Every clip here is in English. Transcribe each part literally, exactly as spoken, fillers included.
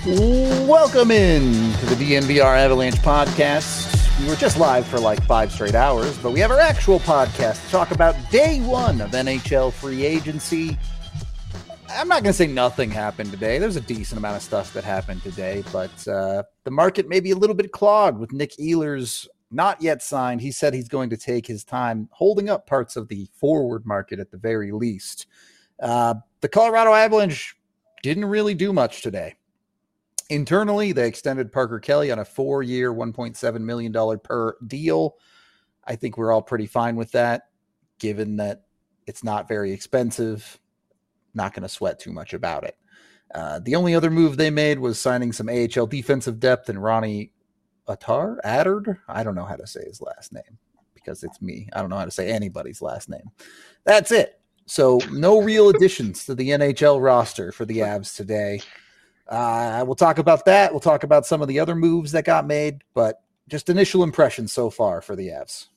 Welcome in to the D N V R Avalanche podcast. We were just live for like five straight hours, but we have our actual podcast to talk about day one of N H L free agency. I'm not going to say nothing happened today. There's a decent amount of stuff that happened today, but uh, the market may be a little bit clogged with Nick Ehlers not yet signed. He said he's going to take his time holding up parts of the forward market at the very least. Uh, the Colorado Avalanche didn't really do much today. Internally, they extended Parker Kelly on a four-year, one point seven million dollars per deal. I think we're all pretty fine with that, given that it's not very expensive. Not going to sweat too much about it. Uh, the only other move they made was signing some A H L defensive depth and Ronnie Attar, Attard? I don't know how to say his last name because it's me. I don't know how to say anybody's last name. That's it. So no real additions to the N H L roster for the Avs today. Uh, we'll talk about that. We'll talk about some of the other moves that got made, but just initial impressions so far for the Avs.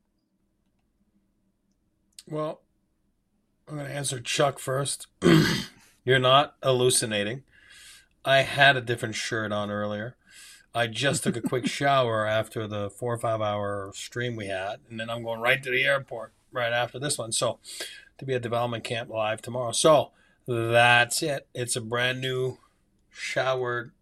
Well, I'm going to answer Chuck first. You're not hallucinating. I had a different shirt on earlier. I just took a quick shower after the four or five hour stream we had, and then I'm going right to the airport right after this one. So to be at development camp live tomorrow. So that's it. It's a brand new showered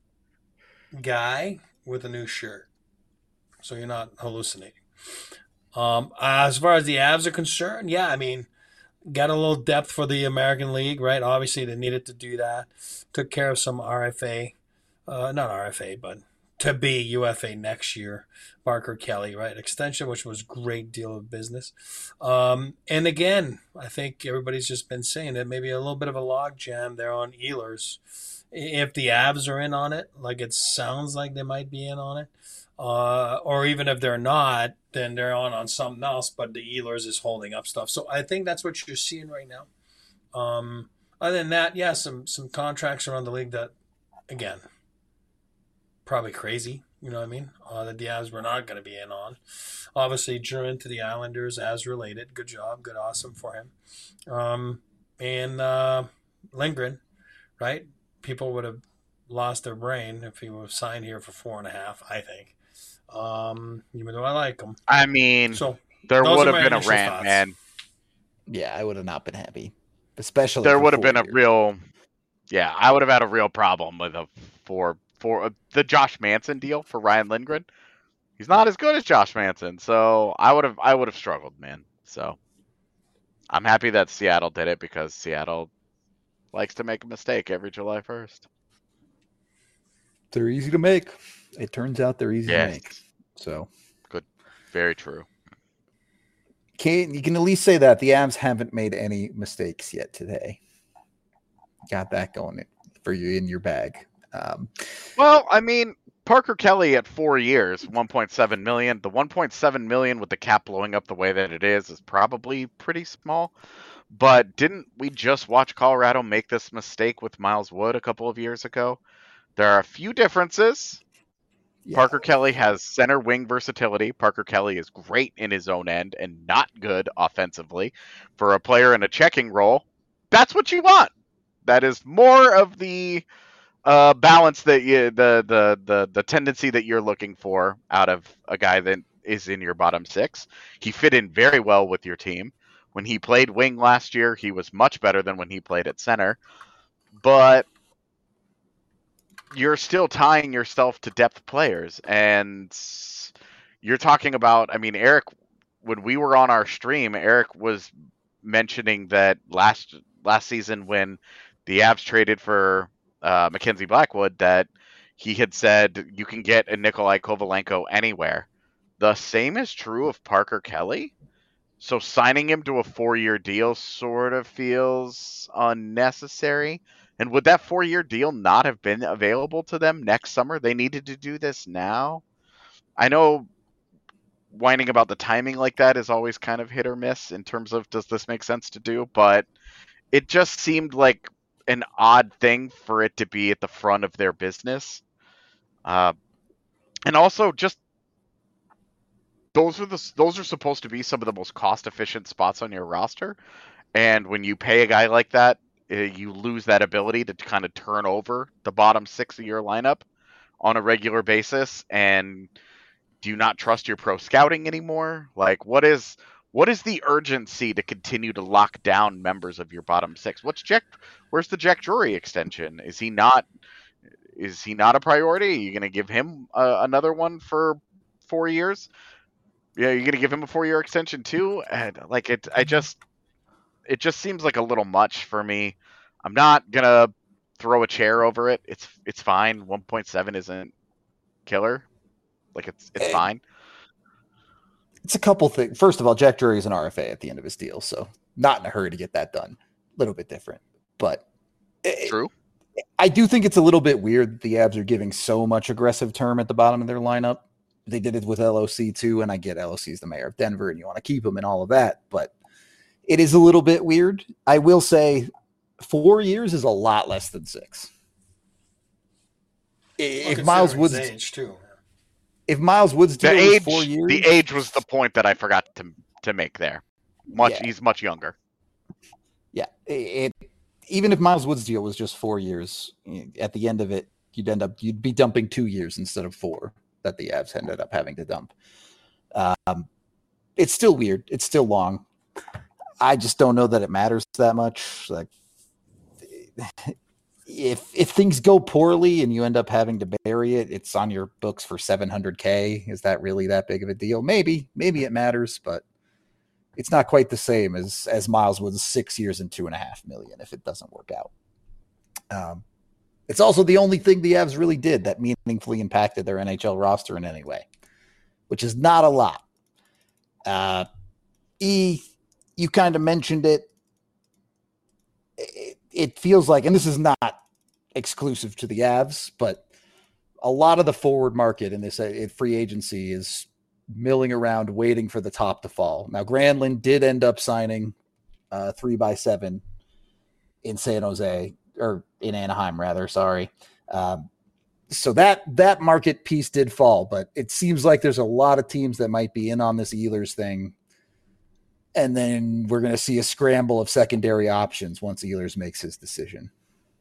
guy with a new shirt. So you're not hallucinating. Um, as far as the Avs are concerned, yeah, I mean, got a little depth for the American League, right? Obviously, they needed to do that. Took care of some R F A, uh, not R F A, but to be U F A next year. Parker Kelly, right? Extension, which was a great deal of business. Um, and again, I think everybody's just been saying that maybe a little bit of a log jam there on Ehlers. If the Avs are in on it, like it sounds like they might be in on it, uh, or even if they're not, then they're on on something else, but the Ehlers is holding up stuff. So I think that's what you're seeing right now. Um, other than that, yeah, some some contracts around the league that, again, probably crazy, you know what I mean, uh, that the Avs were not going to be in on. Obviously, German to the Islanders as related. Good job. Good, awesome for him. Um, and uh, Lindgren, right? People would have lost their brain if he was signed here for four and a half, I think. Um, even though I like him. I mean, so there would have been a rant, thoughts. man. Yeah, I would have not been happy. Especially there would have been years. a real yeah, I would have had a real problem with a for for uh, the Josh Manson deal for Ryan Lindgren. He's not as good as Josh Manson, so I would have I would have struggled, man. So I'm happy that Seattle did it because Seattle likes to make a mistake every July first. They're easy to make. It turns out they're easy yes. to make. So good. Very true. Can, you can at least say that the Avs haven't made any mistakes yet today. Got that going for you in your bag. Um, well, I mean, Parker Kelly at four years, one point seven million dollars. The one point seven million dollars with the cap blowing up the way that it is is probably pretty small. But didn't we just watch Colorado make this mistake with Miles Wood a couple of years ago? There are a few differences. Yeah. Parker Kelly has center wing versatility. Parker Kelly is great in his own end and not good offensively. For a player in a checking role, that's what you want. That is more of the uh, balance that you, the, the the the tendency that you're looking for out of a guy that is in your bottom six. He fit in very well with your team. When he played wing last year, he was much better than when he played at center. But you're still tying yourself to depth players. And you're talking about, I mean, Eric, when we were on our stream, Eric was mentioning that last last season when the Avs traded for uh, Mackenzie Blackwood, that he had said you can get a Nikolai Kovalenko anywhere. The same is true of Parker Kelly. So signing him to a four-year deal sort of feels unnecessary. And would that four-year deal not have been available to them next summer? They needed to do this now. I know whining about the timing like that is always kind of hit or miss in terms of does this make sense to do, but it just seemed like an odd thing for it to be at the front of their business. Uh, and also just Those are the those are supposed to be some of the most cost efficient spots on your roster, and when you pay a guy like that, uh, you lose that ability to kind of turn over the bottom six of your lineup on a regular basis. And do you not trust your pro scouting anymore? Like, what is what is the urgency to continue to lock down members of your bottom six? What's Jack? Where's the Jack Drury extension? Is he not? Is he not a priority? Are you going to give him uh, another one for four years? Yeah, you're going to give him a four-year extension too. And like it, I just, it just seems like a little much for me. I'm not gonna throw a chair over it. It's it's fine. one point seven isn't killer. Like it's it's fine. It's a couple things. First of all, Jack Drury is an R F A at the end of his deal, so not in a hurry to get that done. A little bit different, but true. It, I do think it's a little bit weird that the Avs are giving so much aggressive term at the bottom of their lineup. They did it with L O C too, and I get L O C is the mayor of Denver, and you want to keep him and all of that, but it is a little bit weird. I will say four years is a lot less than six. If well, Miles Woods, age too. If Miles Woods the deal age, four years, the age was the point that I forgot to to make there. Much, yeah. He's much younger. Yeah, it, it, even if Miles Woods deal was just four years, at the end of it, you'd end up you'd be dumping two years instead of four that the Avs ended up having to dump. Um, it's still weird. It's still long. I just don't know that it matters that much. Like, if if things go poorly and you end up having to bury it, it's on your books for seven hundred K. Is that really that big of a deal? Maybe, maybe it matters, but it's not quite the same as as Miles Woods' six years and two and a half million if it doesn't work out. Um, it's also the only thing the Avs really did that meaningfully impacted their N H L roster in any way, which is not a lot. Uh, E. You kind of mentioned it. it. It feels like, and this is not exclusive to the Avs, but a lot of the forward market in this uh, free agency is milling around waiting for the top to fall. Now, Granlund did end up signing uh, three by seven in San Jose, or in Anaheim, rather. Sorry. Um, so that that market piece did fall, but it seems like there's a lot of teams that might be in on this Ehlers thing. And then we're going to see a scramble of secondary options once Ehlers makes his decision.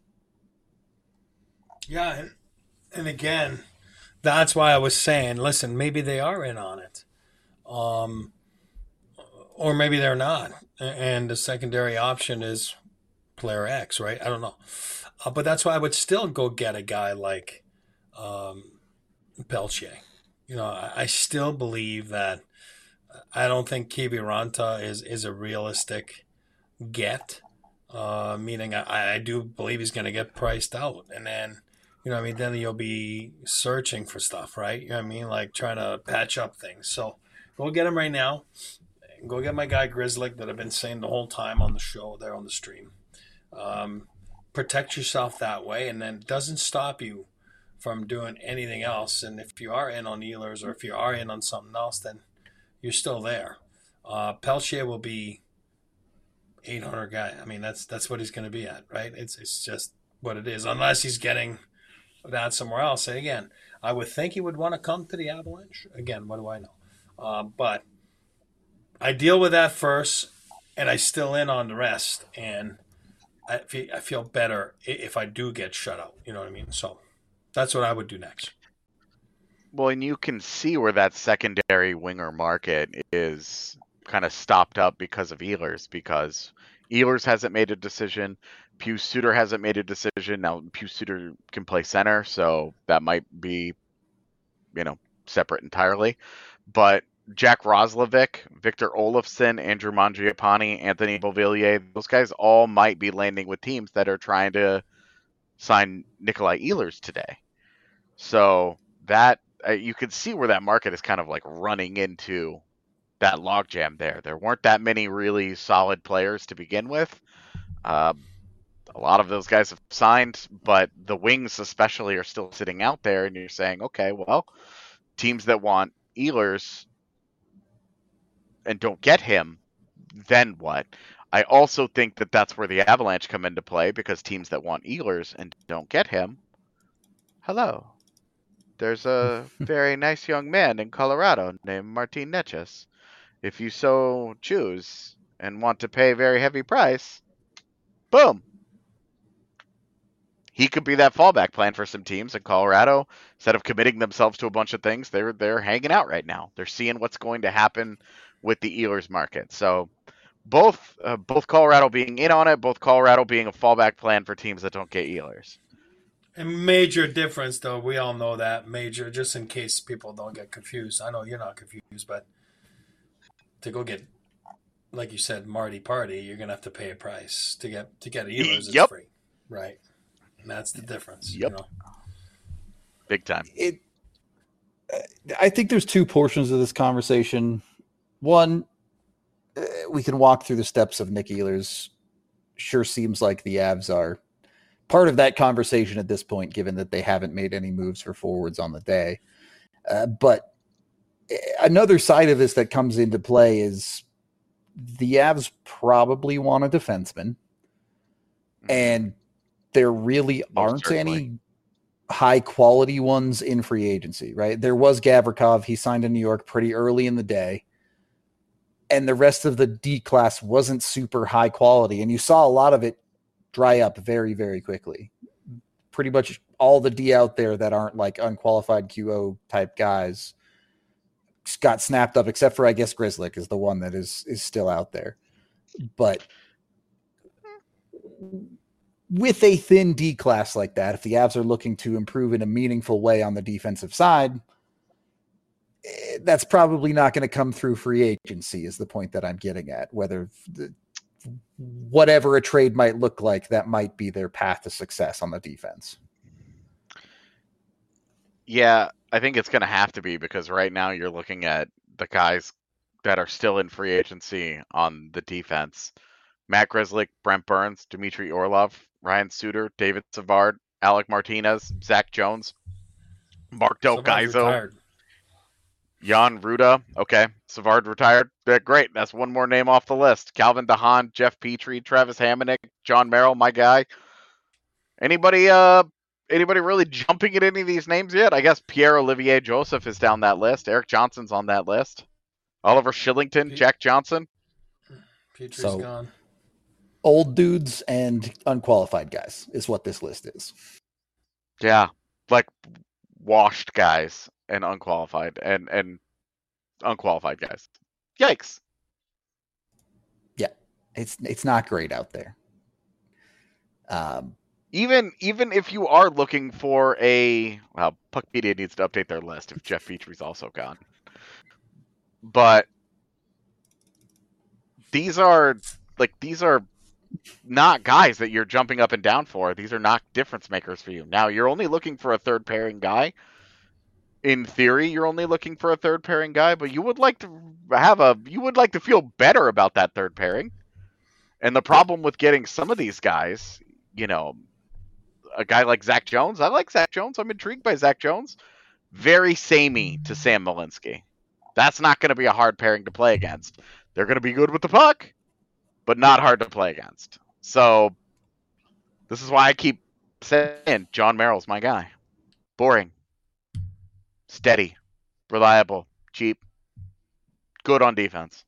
Yeah, and, and again, that's why I was saying, listen, maybe they are in on it. Um, or maybe they're not. And the secondary option is player X, right? I don't know. Uh, but that's why I would still go get a guy like um, Pelche. You know, I, I still believe that I don't think Kiviranta is, is a realistic get, uh, meaning I, I do believe he's going to get priced out. And then, you know what I mean, then you'll be searching for stuff, right? You know what I mean? Like trying to patch up things. So go get him right now. Go get my guy Grizzly that I've been saying the whole time on the show there on the stream. Um, protect yourself that way, and then it doesn't stop you from doing anything else. And if you are in on Ehlers or if you are in on something else, then you're still there. Uh, Pelche will be eight hundred guy. I mean, that's that's what he's going to be at, right? It's it's just what it is, unless he's getting that somewhere else. And again, I would think he would want to come to the Avalanche. Again, what do I know? Uh, but I deal with that first, and I still in on the rest, and I feel, I feel better if I do get shut out. You know what I mean? So that's what I would do next. Well, and you can see where that secondary winger market is kind of stopped up because of Ehlers, because Ehlers hasn't made a decision. Pius Suter hasn't made a decision. Now, Pius Suter can play center, so that might be, you know, separate entirely. But Jack Roslovic, Victor Olofsson, Andrew Mangiapane, Anthony Beauvillier, those guys all might be landing with teams that are trying to sign Nikolai Ehlers today. So that uh, you can see where that market is kind of like running into that logjam there. There weren't that many really solid players to begin with. Um, a lot of those guys have signed, but the wings especially are still sitting out there, and you're saying, okay, well, teams that want Ehlers and don't get him, then what? I also think that that's where the Avalanche come into play, because teams that want Ehlers and don't get him, hello. There's a very nice young man in Colorado named Martin Necas. If you so choose and want to pay a very heavy price, boom, he could be that fallback plan for some teams in Colorado. Instead of committing themselves to a bunch of things, they're they're hanging out right now. They're seeing what's going to happen with the Ehlers market. So both uh, both Colorado being in on it, both Colorado being a fallback plan for teams that don't get Ehlers. A major difference, though. We all know that major, just in case people don't get confused. I know you're not confused, but to go get, like you said, Marty Party, you're gonna have to pay a price to get to get Ehlers. It's Yep. free, right? And that's the difference. Yep. You know? Big time. It. I think there's two portions of this conversation. One, uh, we can walk through the steps of Nick Ehlers. Sure seems like the Avs are part of that conversation at this point, given that they haven't made any moves for forwards on the day. Uh, but another side of this that comes into play is the Avs probably want a defenseman, and there really Most aren't certainly. any high quality ones in free agency, right? There was Gavrikov. He signed in New York pretty early in the day, and the rest of the D class wasn't super high quality. And you saw a lot of it dry up very, very quickly. Pretty much all the D out there that aren't like unqualified Q O type guys got snapped up, except for, I guess, Grzelcyk is the one that is is still out there. But with a thin D class like that, if the Avs are looking to improve in a meaningful way on the defensive side, eh, that's probably not going to come through free agency is the point that I'm getting at. Whether the, whatever a trade might look like, that might be their path to success on the defense. Yeah, I think it's going to have to be, because right now you're looking at the guys that are still in free agency on the defense. Matt Grzelcyk, Brent Burns, Dmitry Orlov, Ryan Suter, David Savard, Alec Martinez, Zach Jones, Mark Del Somebody's Gaizo, retired. Jan Ruda. Okay, Savard retired. Yeah, great. That's one more name off the list. Calvin DeHaan, Jeff Petrie, Travis Hamonic, John Merrill, my guy. Anybody uh anybody really jumping at any of these names yet? I guess Pierre-Olivier Joseph is down that list. Eric Johnson's on that list. Oliver Shillington, Pete- Jack Johnson. Petrie's So- gone. Old dudes and unqualified guys is what this list is. Yeah, like washed guys and unqualified and and unqualified guys. Yikes. It's it's not great out there. Um, Even even if you are looking for a well, Puckpedia needs to update their list if Jeff Petrie's also gone. But these are like these are not guys that you're jumping up and down for. These are not difference makers for you. Now you're only looking for a third pairing guy. In theory, you're only looking for a third pairing guy, but you would like to have a you would like to feel better about that third pairing. And the problem with getting some of these guys, you know, a guy like Zach Jones, I like Zach Jones. I'm intrigued by Zach Jones. Very samey to Sam Malinsky. That's not going to be a hard pairing to play against. They're going to be good with the puck, but not hard to play against. So this is why I keep saying John Merrill's my guy. Boring. Steady. Reliable. Cheap. Good on defense.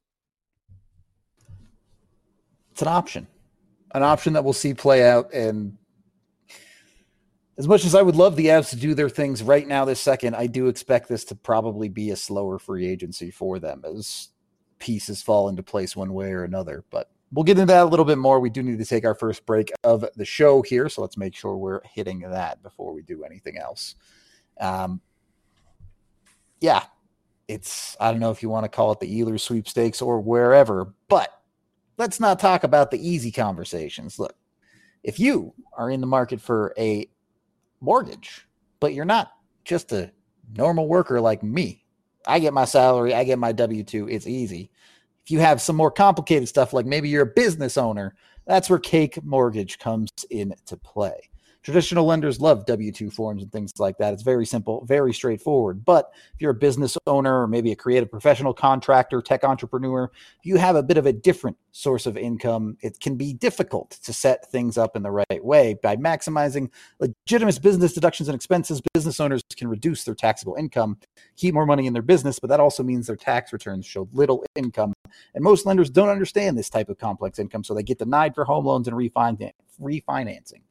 it's an option, an option that we'll see play out. And as much as I would love the Avs to do their things right now, this second, I do expect this to probably be a slower free agency for them as pieces fall into place one way or another. But we'll get into that a little bit more. We do need to take our first break of the show here, so let's make sure we're hitting that before we do anything else. Um, yeah, it's, I don't know if you want to call it the Ehlers sweepstakes or wherever, but let's not talk about the easy conversations. Look, if you are in the market for a mortgage, but you're not just a normal worker like me, I get my salary, I get my W two, it's easy. If you have some more complicated stuff, like maybe you're a business owner, that's where Cake Mortgage comes into play. Traditional lenders love W two forms and things like that. It's very simple, very straightforward. But if you're a business owner or maybe a creative professional, contractor, tech entrepreneur, you have a bit of a different source of income. It can be difficult to set things up in the right way. By maximizing legitimate business deductions and expenses, business owners can reduce their taxable income, keep more money in their business, but that also means their tax returns show little income. And most lenders don't understand this type of complex income, so they get denied for home loans and refinancing.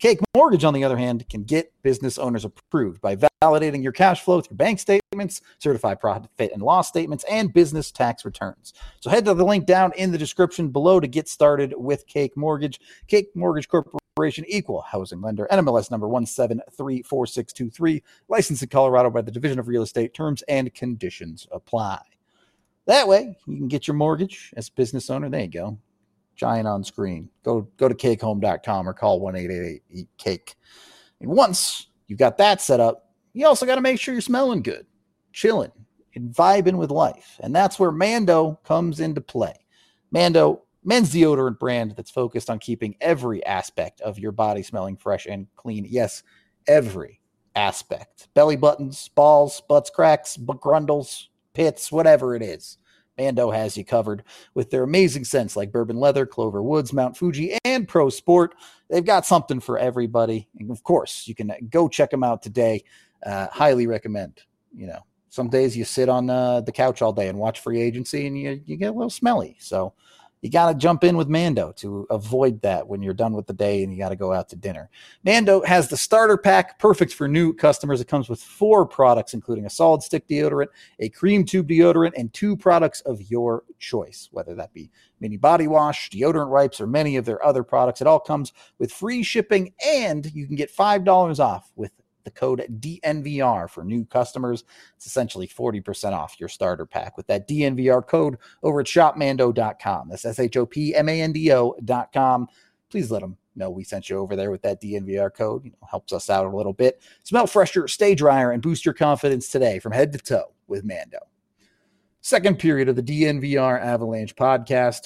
Cake Mortgage, on the other hand, can get business owners approved by validating your cash flow through bank statements, certified profit and loss statements, and business tax returns. So head to the link down in the description below to get started with Cake Mortgage. Cake Mortgage Corporation, equal housing lender, N M L S number one seven three four six two three, licensed in Colorado by the Division of Real Estate. Terms and conditions apply. That way, you can get your mortgage as a business owner. There you go. Giant on screen. Go go to cake home dot com or call one eight eight eight eat cake. And once you've got that set up, you also got to make sure you're smelling good, chilling, and vibing with life. And that's where Mando comes into play. Mando, men's deodorant brand that's focused on keeping every aspect of your body smelling fresh and clean. Yes, every aspect. Belly buttons, balls, butts, cracks, grundles, pits, whatever it is. Mando has you covered with their amazing scents like Bourbon Leather, Clover Woods, Mount Fuji, and Pro Sport. They've got something for everybody. And of course, you can go check them out today. Uh, highly recommend. You know, some days you sit on uh, the couch all day and watch free agency and you, you get a little smelly. So you got to jump in with Mando to avoid that when you're done with the day and you got to go out to dinner. Mando has the starter pack, perfect for new customers. It comes with four products, including a solid stick deodorant, a cream tube deodorant, and two products of your choice, whether that be mini body wash, deodorant wipes, or many of their other products. It all comes with free shipping, and you can get five dollars off with the code D N V R for new customers. It's essentially forty percent off your starter pack with that D N V R code over at shop mando dot com. That's S H O P M A N D O dot com. Please let them know we sent you over there with that D N V R code. You know, helps us out a little bit. Smell fresher, stay drier, and boost your confidence today from head to toe with Mando. Second period of the D N V R Avalanche podcast.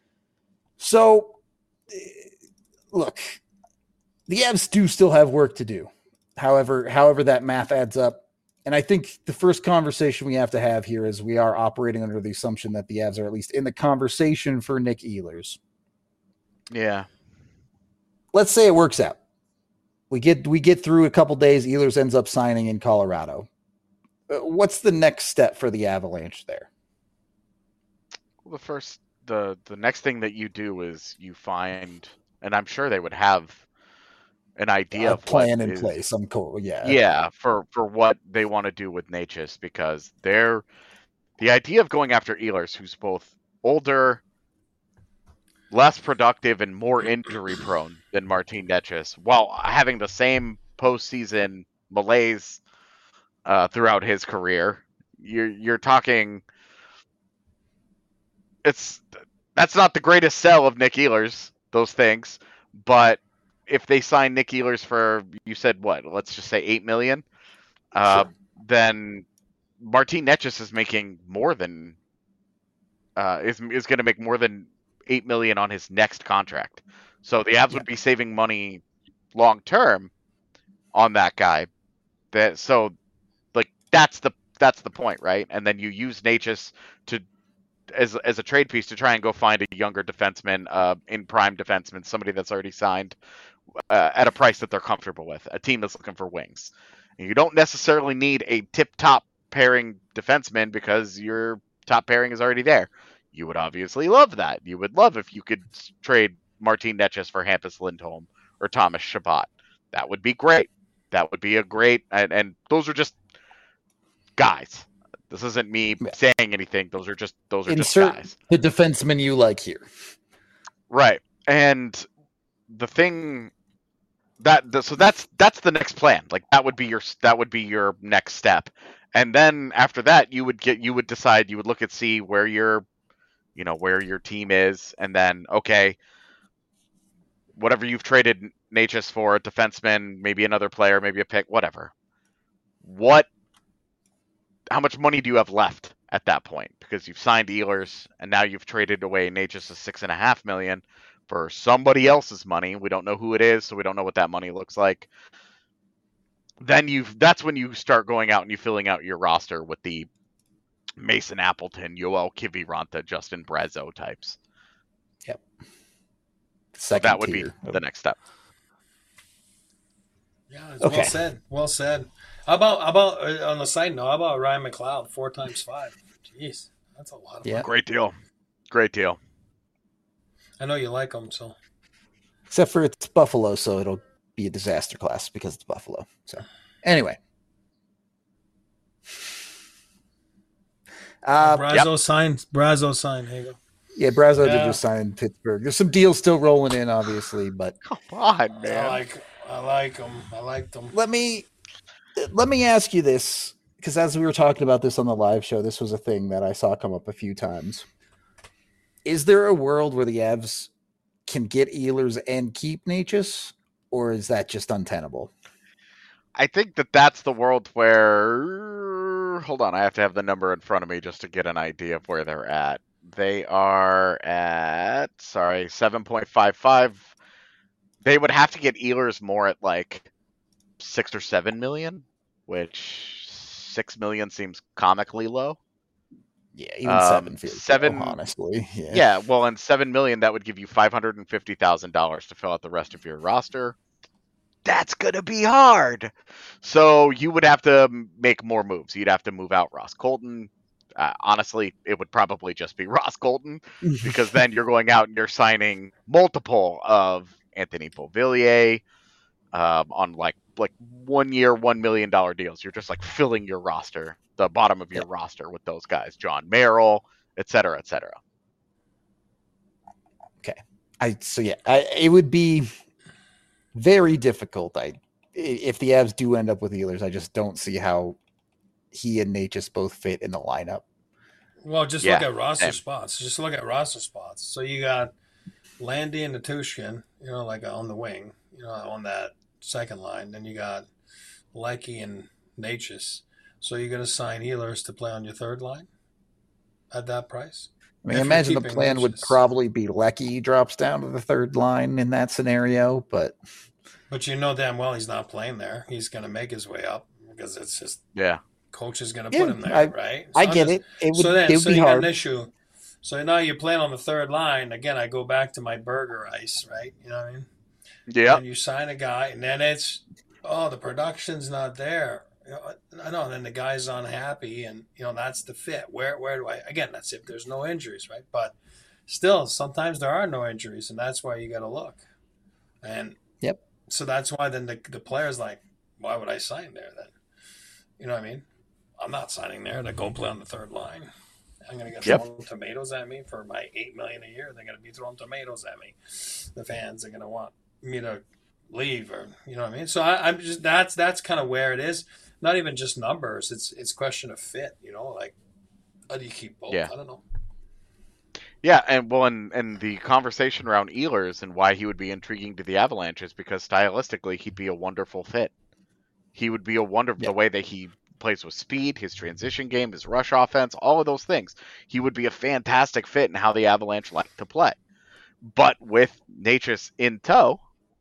So, look, the Avs do still have work to do. However, however that math adds up. And I think the first conversation we have to have here is we are operating under the assumption that the Avs are at least in the conversation for Nick Ehlers. Yeah. Let's say it works out. We get we get through a couple days. Ehlers ends up signing in Colorado. What's the next step for the Avalanche there? Well, the first, the the next thing that you do is you find, and I'm sure they would have an idea a of plan what in is, place. I'm cool. Yeah. Yeah, for, for what they want to do with Necas, because they're the idea of going after Ehlers, who's both older, less productive, and more injury prone than Martin Necas, while having the same postseason malaise uh, throughout his career. You're you're talking. It's that's not the greatest sell of Nick Ehlers, those things, but if they sign Nick Ehlers for, you said what? Let's just say eight million. Uh, Sure. Then Martin Necas is making more than uh, is is going to make more than eight million on his next contract. So the Avs Yeah. would be saving money long term on that guy. That so like that's the that's the point, right? And then you use Necas to as as a trade piece to try and go find a younger defenseman, uh, in prime defenseman, somebody that's already signed uh, at a price that they're comfortable with. A team that's looking for wings. And you don't necessarily need a tip-top pairing defenseman because your top pairing is already there. You would obviously love that. You would love if you could trade Martin Necas for Hampus Lindholm or Thomas Chabot. That would be great. That would be a great, and, and those are just guys. This isn't me Yeah. saying anything. Those are just those are Insert just guys. the defenseman you like here. Right. And the thing that the, so that's that's the next plan. Like that would be your that would be your next step. And then after that you would get you would decide you would look at see where your you know where your team is, and then okay, whatever you've traded Necas for, a defenseman, maybe another player, maybe a pick, whatever. What how much money do you have left at that point? Because you've signed Ehlers and now you've traded away Necas a six and a half million for somebody else's money. We don't know who it is, so we don't know what that money looks like. Then you've that's when you start going out and you filling out your roster with the Mason Appleton, Yoel Kiviranta, Justin Brazeau types. Yep. So Second that would tier. be the next step. Yeah, it's Okay. well said. Well said. How about how about uh, on the side note? How about Ryan McLeod? Four times five. Jeez, that's a lot of Yeah. money. Great deal. Great deal. I know you like him, so Except for it's Buffalo, so it'll be a disaster class because it's Buffalo. So anyway. Uh, Brazo yep. signed. Brazo signed. Here you go. Yeah, Brazo yeah. did just sign Pittsburgh. There's some deals still rolling in, obviously, but come on, man. I like, I like them. I like them. Let me, let me ask you this, because as we were talking about this on the live show, this was a thing that I saw come up a few times. Is there a world where the Avs can get Ehlers and keep Necas, or is that just untenable? I think that that's the world where. Hold on, I have to have the number in front of me just to get an idea of where they're at. They are at, sorry, seven point five five. They would have to get Ehlers more at like six or seven million, which six million seems comically low. Yeah, even um, seven feels seven, low, honestly. Yeah. yeah, well, and seven million, that would give you five hundred fifty thousand dollars to fill out the rest of your roster. That's going to be hard. So you would have to make more moves. You'd have to move out Ross Colton. Uh, honestly, it would probably just be Ross Colton, because then you're going out and you're signing multiple of Anthony Beauvillier um, on like like one year, one million dollar deals. You're just like filling your roster, the bottom of your yeah. roster with those guys, John Merrill, et cetera, et cetera. Okay, I so yeah, I, it would be very difficult. I if the Avs do end up with Ehlers, I just don't see how he and Necas both fit in the lineup. Well, just yeah. look at roster Same. spots. Just look at roster spots. So you got Landy and Natushkin, you know, like on the wing, you know, on that second line. Then you got Leckie and Necas. So you're going to sign Ehlers to play on your third line at that price? I mean, I imagine the plan Necas. would probably be Leckie drops down to the third line in that scenario, but but you know damn well he's not playing there. He's going to make his way up because it's just yeah. Coach is going to yeah, put him there, I, right? So I get just, it. It would, so then, it would so be you hard. got an issue. So now you're playing on the third line. Again, I go back to my burger ice, right? You know what I mean? Yeah. And you sign a guy, and then it's, oh, the production's not there. You know, I know. And then the guy's unhappy, and, you know, that's the fit. Where, where do I, again, that's if there's no injuries, right? But still, sometimes there are no injuries, and that's why you got to look. And yep. So that's why then the, the player's like, why would I sign there then? You know what I mean? I'm not signing there to go play on the third line. I'm going to get yep. thrown tomatoes at me for my eight million dollars a year. They're going to be throwing tomatoes at me. The fans are going to want me to leave, or you know what I mean. So I, I'm just that's that's kind of where it is. Not even just numbers. It's it's question of fit. You know, like how do you keep both? Yeah. I don't know. Yeah, and well, and, and the conversation around Ehlers and why he would be intriguing to the Avalanche is because stylistically he'd be a wonderful fit. He would be a wonderful yep. the way that he plays with speed, his transition game, his rush offense, all of those things. He would be a fantastic fit in how the Avalanche like to play. But with Necas in tow,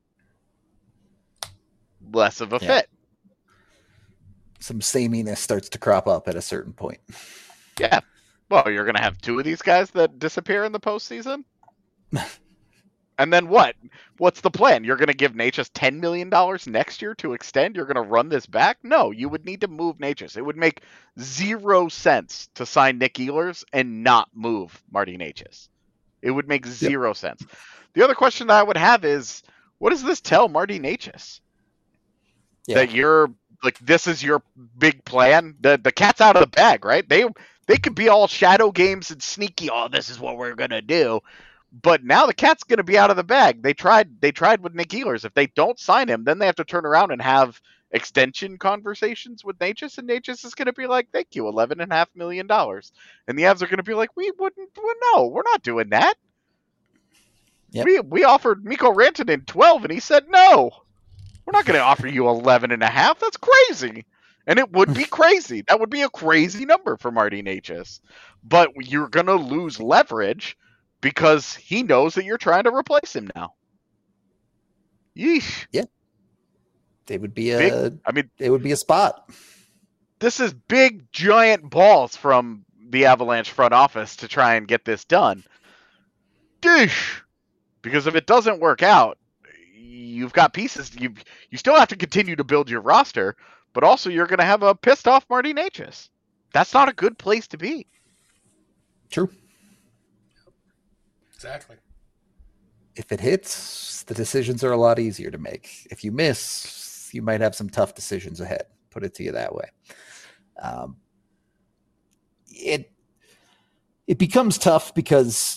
less of a yeah. fit. Some sameness starts to crop up at a certain point. Yeah. Well, you're going to have two of these guys that disappear in the postseason? And then what? What's the plan? You're going to give Necas ten million dollars next year to extend? You're going to run this back? No, you would need to move Necas. It would make zero sense to sign Nick Ehlers and not move Marty Necas. It would make zero yep. sense. The other question that I would have is, what does this tell Marty Necas? Yeah. That you're, like, this is your big plan? The the cat's out of the bag, right? They, they could be all shadow games and sneaky, oh, this is what we're going to do. But now the cat's going to be out of the bag. They tried They tried with Nick Ehlers. If they don't sign him, then they have to turn around and have extension conversations with Necas, and Necas is going to be like, thank you, eleven point five million dollars. And the Avs are going to be like, we wouldn't, well, no, we're not doing that. Yep. We we offered Mikko Rantanen twelve, and he said, no, we're not going to offer you eleven and a half. That's crazy. And it would be crazy. That would be a crazy number for Marty Necas. But you're going to lose leverage because he knows that you're trying to replace him now. Yeesh. Yeah. They would be a big, I mean, it would be a spot. This is big, giant balls from the Avalanche front office to try and get this done. Dish. Because if it doesn't work out, you've got pieces. You you still have to continue to build your roster, but also you're going to have a pissed off Marty Necas. That's not a good place to be. True. Exactly. if it hits, the decisions are a lot easier to make. If you miss, you might have some tough decisions ahead. Put it to you that way. Um, it it becomes tough because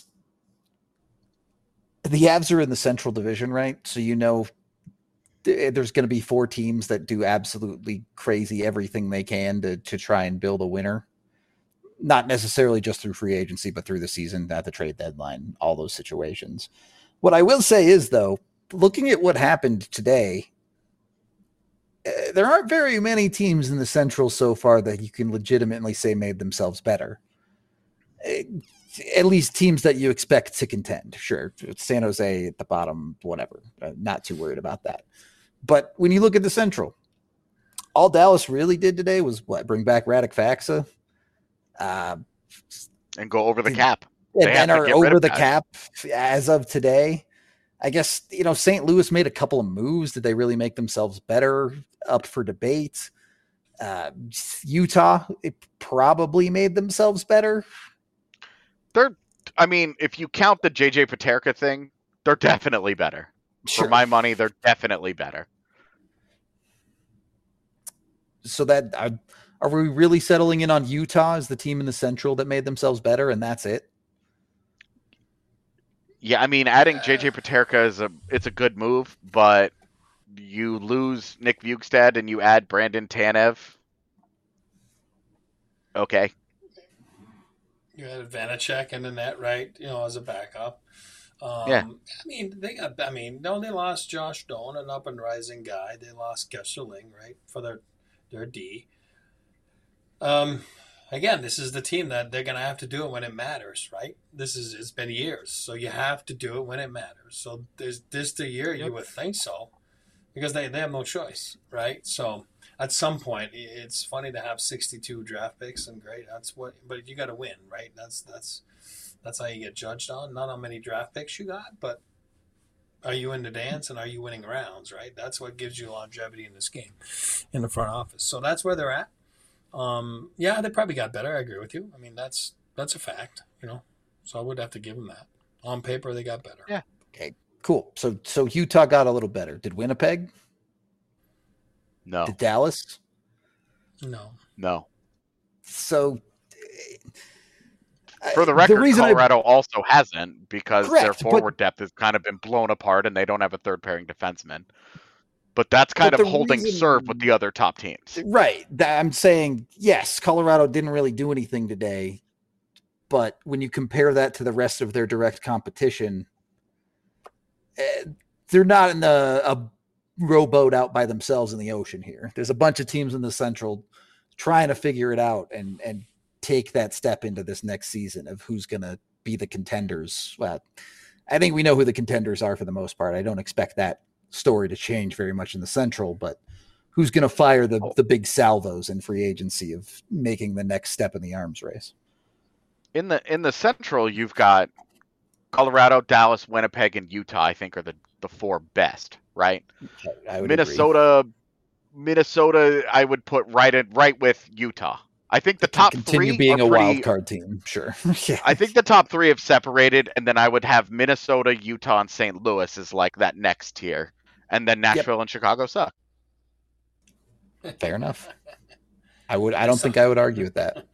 the Avs are in the Central Division, right? So you know there's going to be four teams that do absolutely crazy everything they can to to try and build a winner. Not necessarily just through free agency, but through the season, at the trade deadline, all those situations. What I will say is, though, looking at what happened today, uh, there aren't very many teams in the Central so far that you can legitimately say made themselves better. Uh, at least teams that you expect to contend. Sure, San Jose at the bottom, whatever. Uh, not too worried about that. But when you look at the Central, all Dallas really did today was what? Bring back Radek Faksa. Uh, and go over the cap. And then are over the cap as of today. I guess, you know, Saint Louis made a couple of moves. Did they really make themselves better? Up for debate. Uh, Utah, it probably made themselves better. They're, I mean, if you count the J J Paterka thing, they're definitely better. Sure. For my money, they're definitely better. So that uh, are we really settling in on Utah as the team in the Central that made themselves better, and that's it? Yeah, I mean, adding J J Paterka is a it's a good move, but you lose Nick Bjugstad and you add Brandon Tanev. Okay. You had Vanacek in the net, right? You know, as a backup. Um, yeah. I mean, they got. I mean, no, they lost Josh Doan, an up and rising guy. They lost Gesserling, right, for their their D. Um, again, this is the team that they're going to have to do it when it matters, right? This is it's been years, so you have to do it when it matters. So there's this the year Yep. you would think so, because they, they have no choice, right? So at some point, it's funny to have sixty-two draft picks and great. That's what, but you got to win, right? That's that's that's how you get judged on. Not how many draft picks you got, but are you in the dance and are you winning rounds, right? That's what gives you longevity in this game, in the front office. So that's where they're at. Um, yeah, they probably got better. I agree with you. I mean, that's that's a fact, you know. So I would have to give them that. On paper, they got better. Yeah. Okay. Cool. So so Utah got a little better. Did Winnipeg? No. Did Dallas? No. No. So for the record, the reason Colorado I... also hasn't because Correct, their forward but... depth has kind of been blown apart and they don't have a third pairing defenseman. But that's kind but of holding reason... serve with the other top teams. Right. I'm saying, yes, Colorado didn't really do anything today. But when you compare that to the rest of their direct competition, they're not in the, a rowboat out by themselves in the ocean here. There's a bunch of teams in the Central trying to figure it out and, and take that step into this next season of who's going to be the contenders. Well, I think we know who the contenders are for the most part. I don't expect that story to change very much in the Central, but who's going to fire the, the big salvos in free agency of making the next step in the arms race? In the in the Central, you've got Colorado, Dallas, Winnipeg, and Utah, I think, are the, the four best, right? I would Minnesota, agree. Minnesota, I would put right in, right with Utah. I think the top continue three being are a pretty, wild card team. Sure. Yeah. I think the top three have separated, and then I would have Minnesota, Utah, and Saint Louis as like that next tier, and then Nashville yep. and Chicago suck. Fair enough. I would. I don't think I would argue with that.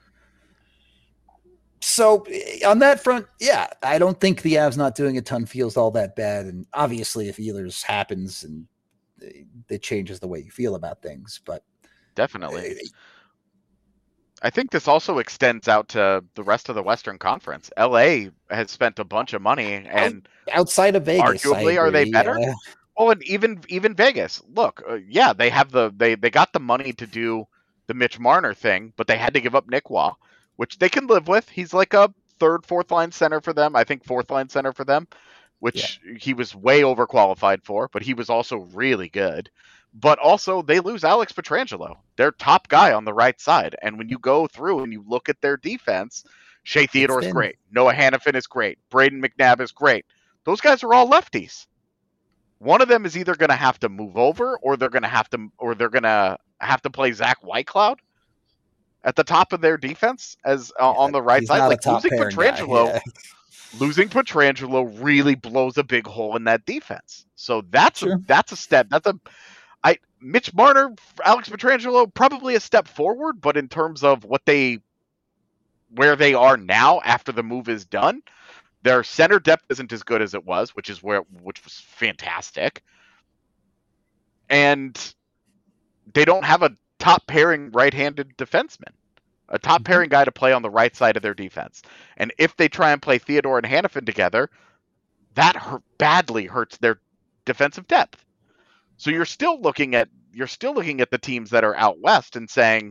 So on that front, yeah, I don't think the Avs not doing a ton feels all that bad. And obviously, if Ehlers happens, and it changes the way you feel about things, but definitely. Uh, I think this also extends out to the rest of the Western Conference. L A has spent a bunch of money, and outside of Vegas, arguably, are they better? Yeah. Well, and even even Vegas. Look, uh, yeah, they have the they they got the money to do the Mitch Marner thing, but they had to give up Nick Waugh, which they can live with. He's like a third, fourth line center for them. I think fourth line center for them, which yeah. he was way overqualified for, but he was also really good. But also, they lose Alex Pietrangelo, their top guy on the right side. And when you go through and you look at their defense, Shea Theodore is great. Noah Hannafin is great. Braden McNabb is great. Those guys are all lefties. One of them is either going to have to move over, or they're going to have to, or they're going to have to play Zach Whitecloud at the top of their defense as uh, yeah, on the right he's side. Not like a top losing Pietrangelo, yeah. losing Pietrangelo really blows a big hole in that defense. So that's Sure. a, that's a step. That's a I Mitch Marner, Alex Pietrangelo, probably a step forward, but in terms of what they where they are now after the move is done, their center depth isn't as good as it was, which is where which was fantastic. And they don't have a top pairing right-handed defenseman, a top Mm-hmm. pairing guy to play on the right side of their defense. And if they try and play Theodore and Hannafin together, that hurt, badly hurts their defensive depth. So you're still looking at you're still looking at the teams that are out west and saying,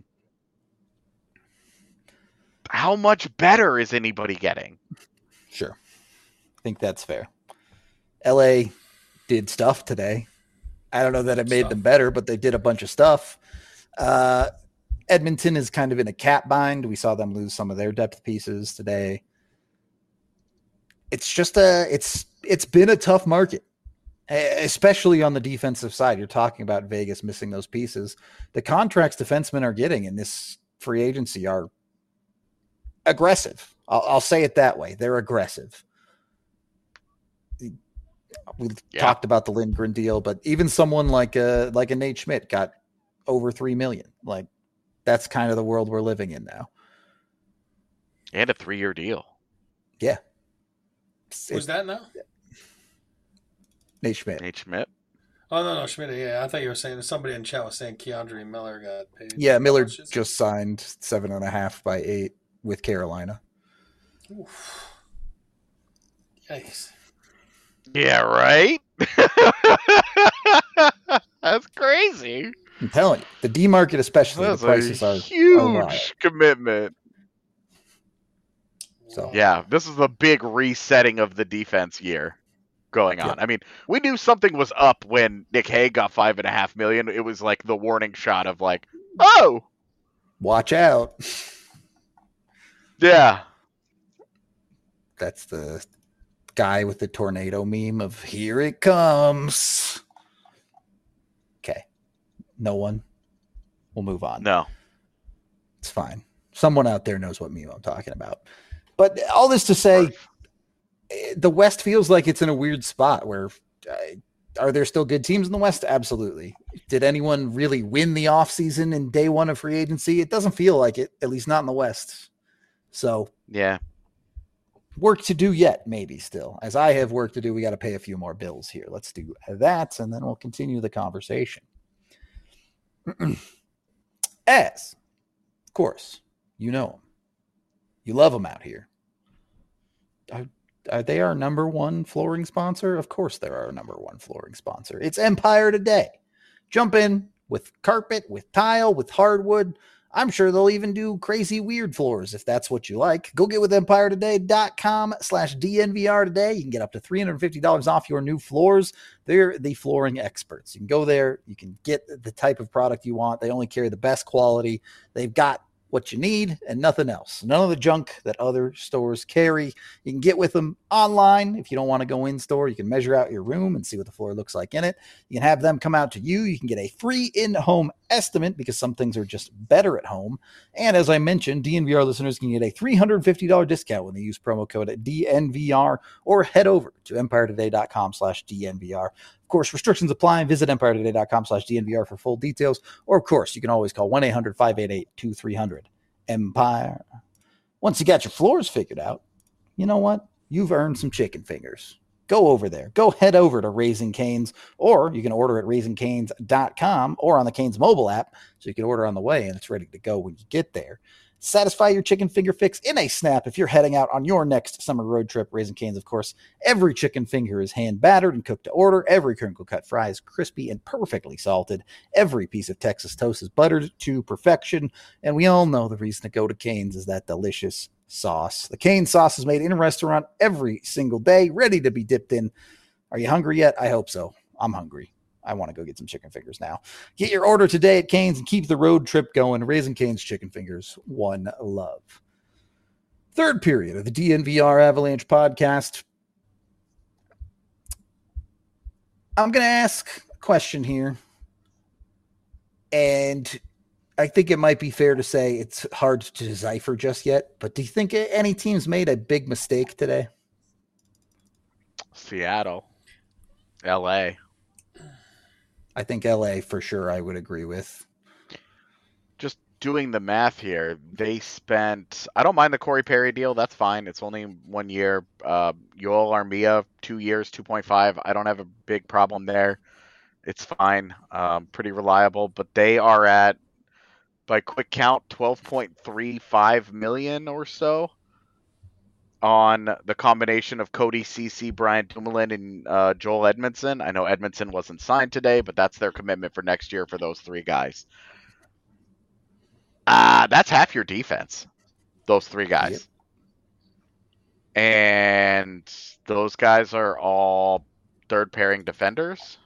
how much better is anybody getting? Sure. I think that's fair. L A did stuff today. I don't know that it made Stuff. them better, but they did a bunch of stuff. Uh, Edmonton is kind of in a cap bind. We saw them lose some of their depth pieces today. It's just a it's it's been a tough market, especially on the defensive side. You're talking about Vegas missing those pieces. The contracts defensemen are getting in this free agency are aggressive. I'll, I'll say it that way. They're aggressive. We Yeah. talked about the Lindgren deal, but even someone like a like a Nate Schmidt got over three million. Like that's kind of the world we're living in now. And a three-year deal. Yeah. It's- Who's it's that now? Nate Schmidt. Nate Schmidt. Oh no, no, Schmidt. Yeah, I thought you were saying somebody in chat was saying Keandre Miller got paid. Yeah, Miller How much is it? just signed seven and a half by eight with Carolina. Oof. Yikes. Yeah, right? That's crazy. I'm telling you, the D market especially, That's the prices a are huge wild. commitment. So- Yeah, this is a big resetting of the defense year going on. Yeah. I mean, we knew something was up when Nick Hague got five and a half million. It was like the warning shot of like, oh, watch out. yeah. That's the guy with the tornado meme of here it comes. Okay. No one. We'll move on. No. It's fine. Someone out there knows what meme I'm talking about. But all this to say, eh, the West feels like it's in a weird spot where uh, are there still good teams in the West? Absolutely. Did anyone really win the offseason in day one of free agency? It doesn't feel like it, at least not in the West. So Yeah. work to do yet, maybe still. As I have work to do, we got to pay a few more bills here. Let's do that, and then we'll continue the conversation. As, of course, you know them. You love them out here. Are, are they our number one flooring sponsor? Of course they're our number one flooring sponsor. It's Empire Today. Jump in with carpet, with tile, with hardwood. I'm sure they'll even do crazy weird floors if that's what you like. Go get with empire today dot com slash D N V R today. You can get up to three hundred fifty dollars off your new floors. They're the flooring experts. You can go there. You can get the type of product you want. They only carry the best quality. They've got what you need and nothing else. None of the junk that other stores carry. You can get with them online. If you don't want to go in store, you can measure out your room and see what the floor looks like in it. You can have them come out to you. You can get a free in-home estimate because some things are just better at home. And as I mentioned, D N V R listeners can get a three hundred fifty dollars discount when they use promo code D N V R or head over to empire today dot com slash D N V R. Of course, restrictions apply. Visit empire today dot com slash D N V R for full details. Or, of course, you can always call one eight hundred five eight eight two three zero zero. Empire. Once you got your floors figured out, you know what? You've earned some chicken fingers. Go over there. Go head over to Raising Cane's, or you can order at raising canes dot com or on the Cane's mobile app, so you can order on the way and it's ready to go when you get there. Satisfy your chicken finger fix in a snap if you're heading out on your next summer road trip. Raising Cane's, of course, every chicken finger is hand battered and cooked to order. Every crinkle cut fry is crispy and perfectly salted. Every piece of Texas toast is buttered to perfection. And we all know the reason to go to Cane's is that delicious sauce. The Cane's sauce is made in a restaurant every single day, ready to be dipped in. Are you hungry yet? I hope so. I'm hungry. I want to go get some chicken fingers now. Get your order today at Cane's and keep the road trip going. Raising Cane's chicken fingers, one love. Third period of the D N V R Avalanche podcast. I'm going to ask a question here. And I think it might be fair to say it's hard to decipher just yet. But do you think any teams made a big mistake today? Seattle, L A. I think L A for sure. I would agree with. Just doing the math here, they spent. I don't mind the Corey Perry deal. That's fine. It's only one year. Uh, Yoel Armia, two years, two point five. I don't have a big problem there. It's fine. Um, pretty reliable. But they are at, by quick count, twelve point three five million or so on the combination of Cody Ceci, Brian Dumoulin, and uh, Joel Edmondson. I know Edmondson wasn't signed today, but that's their commitment for next year for those three guys. Uh, that's half your defense, those three guys. Yep. And those guys are all third pairing defenders.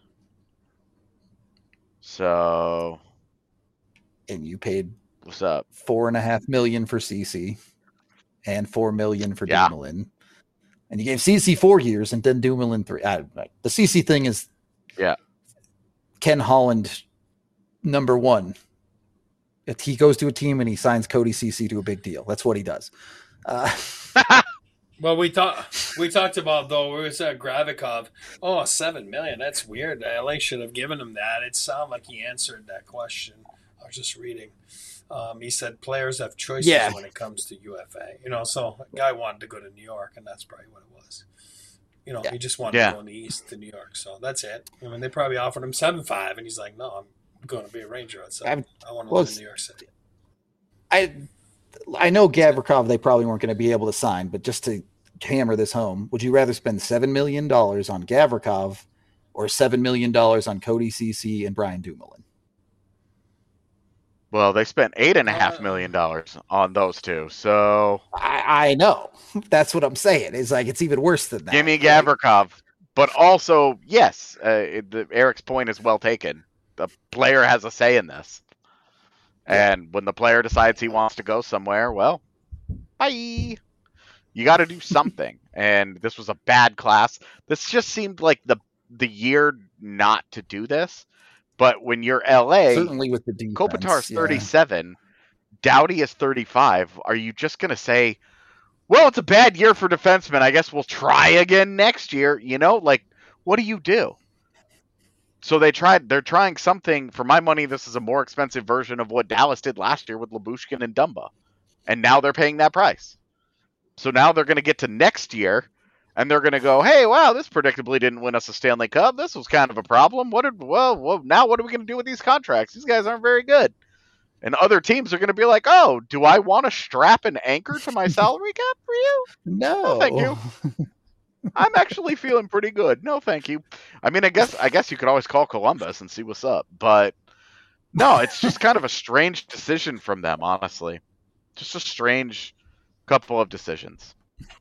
So, And you paid what's up? four and a half million for C C and four million for Yeah. Dumoulin. And you gave C C four years and then Dumoulin three. Uh, the C C thing is Yeah. Ken Holland, number one. If he goes to a team and he signs Cody Ceci to a big deal, that's what he does. Uh, Well, we talked we talked about though. We was at Gravikov. Oh, seven million. That's weird. L A should have given him that. It sounded like he answered that question. I was just reading. Um, he said players have choices Yeah. when it comes to U F A. You know, so a guy wanted to go to New York, and that's probably what it was. You know, Yeah. he just wanted Yeah. to go in the East to New York. So that's it. I mean, they probably offered him seven five, and he's like, "No, I'm going to be a Ranger at seven. I want to well, live in New York City." I I know Gavrikov they probably weren't going to be able to sign, but just to hammer this home, would you rather spend seven million dollars on Gavrikov or seven million dollars on Cody Ceci and Brian Dumoulin? Well, they spent eight and a half Uh, million dollars on those two. So I, I know. That's what I'm saying. It's like it's even worse than that. give me Like, Gavrikov. But also, yes, uh, it- the, Eric's point is well taken. The player has a say in this. And when the player decides he wants to go somewhere, well, bye. You got to do something. And this was a bad class. This just seemed like the the year not to do this. But when you're L A, certainly with the defense. Kopitar's yeah. thirty-seven, Doughty is thirty-five. Are you just going to say, well, it's a bad year for defensemen. I guess we'll try again next year. You know, like, what do you do? So they tried. They're trying something. For my money, this is a more expensive version of what Dallas did last year with Lyubushkin and Dumba, and now they're paying that price. So now they're going to get to next year, and they're going to go, "Hey, wow, this predictably didn't win us a Stanley Cup. This was kind of a problem. What did well, well now what are we going to do with these contracts? These guys aren't very good." And other teams are going to be like, "Oh, do I want to strap an anchor to my salary cap for you? No, Oh, thank you. I'm actually feeling pretty good. No, thank you." I mean, I guess I guess you could always call Columbus and see what's up, but no, it's just kind of a strange decision from them, honestly. Just a strange couple of decisions.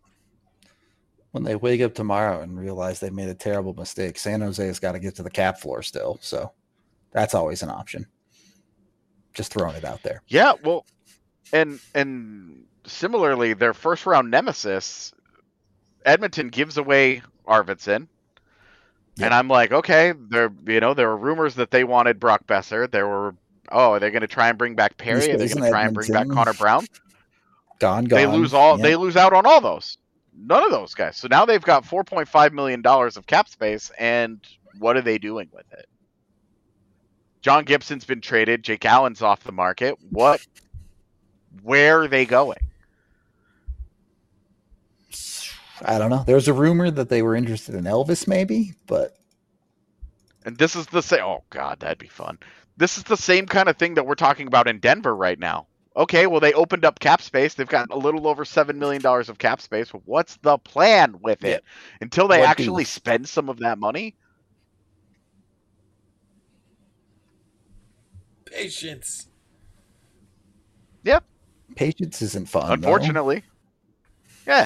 When they wake up tomorrow and realize they made a terrible mistake, San Jose has got to get to the cap floor still. So that's always an option. Just throwing it out there. Yeah, well, and and similarly, their first round nemesis, Edmonton, gives away Arvidsson. Yep. And I'm like, okay, there you know, there were rumors that they wanted Brock Besser. There were oh, are they going to try and bring back Perry? He Are they stays going in to try and bring back Edmonton. Connor Brown? Gone, gone. They lose all. Yeah. They lose out on all those. None of those guys. So now they've got four point five million dollars of cap space, and what are they doing with it? John Gibson's been traded. Jake Allen's off the market. What? Where are they going? I don't know. There's a rumor that they were interested in Elvis, maybe, but And this is the same. Oh God, that'd be fun. This is the same kind of thing that we're talking about in Denver right now. Okay, well they opened up cap space. They've got a little over seven million dollars of cap space. What's the plan with it? Until they What actually do- spend some of that money. Patience. Yep. patience isn't fun. Unfortunately. Yeah.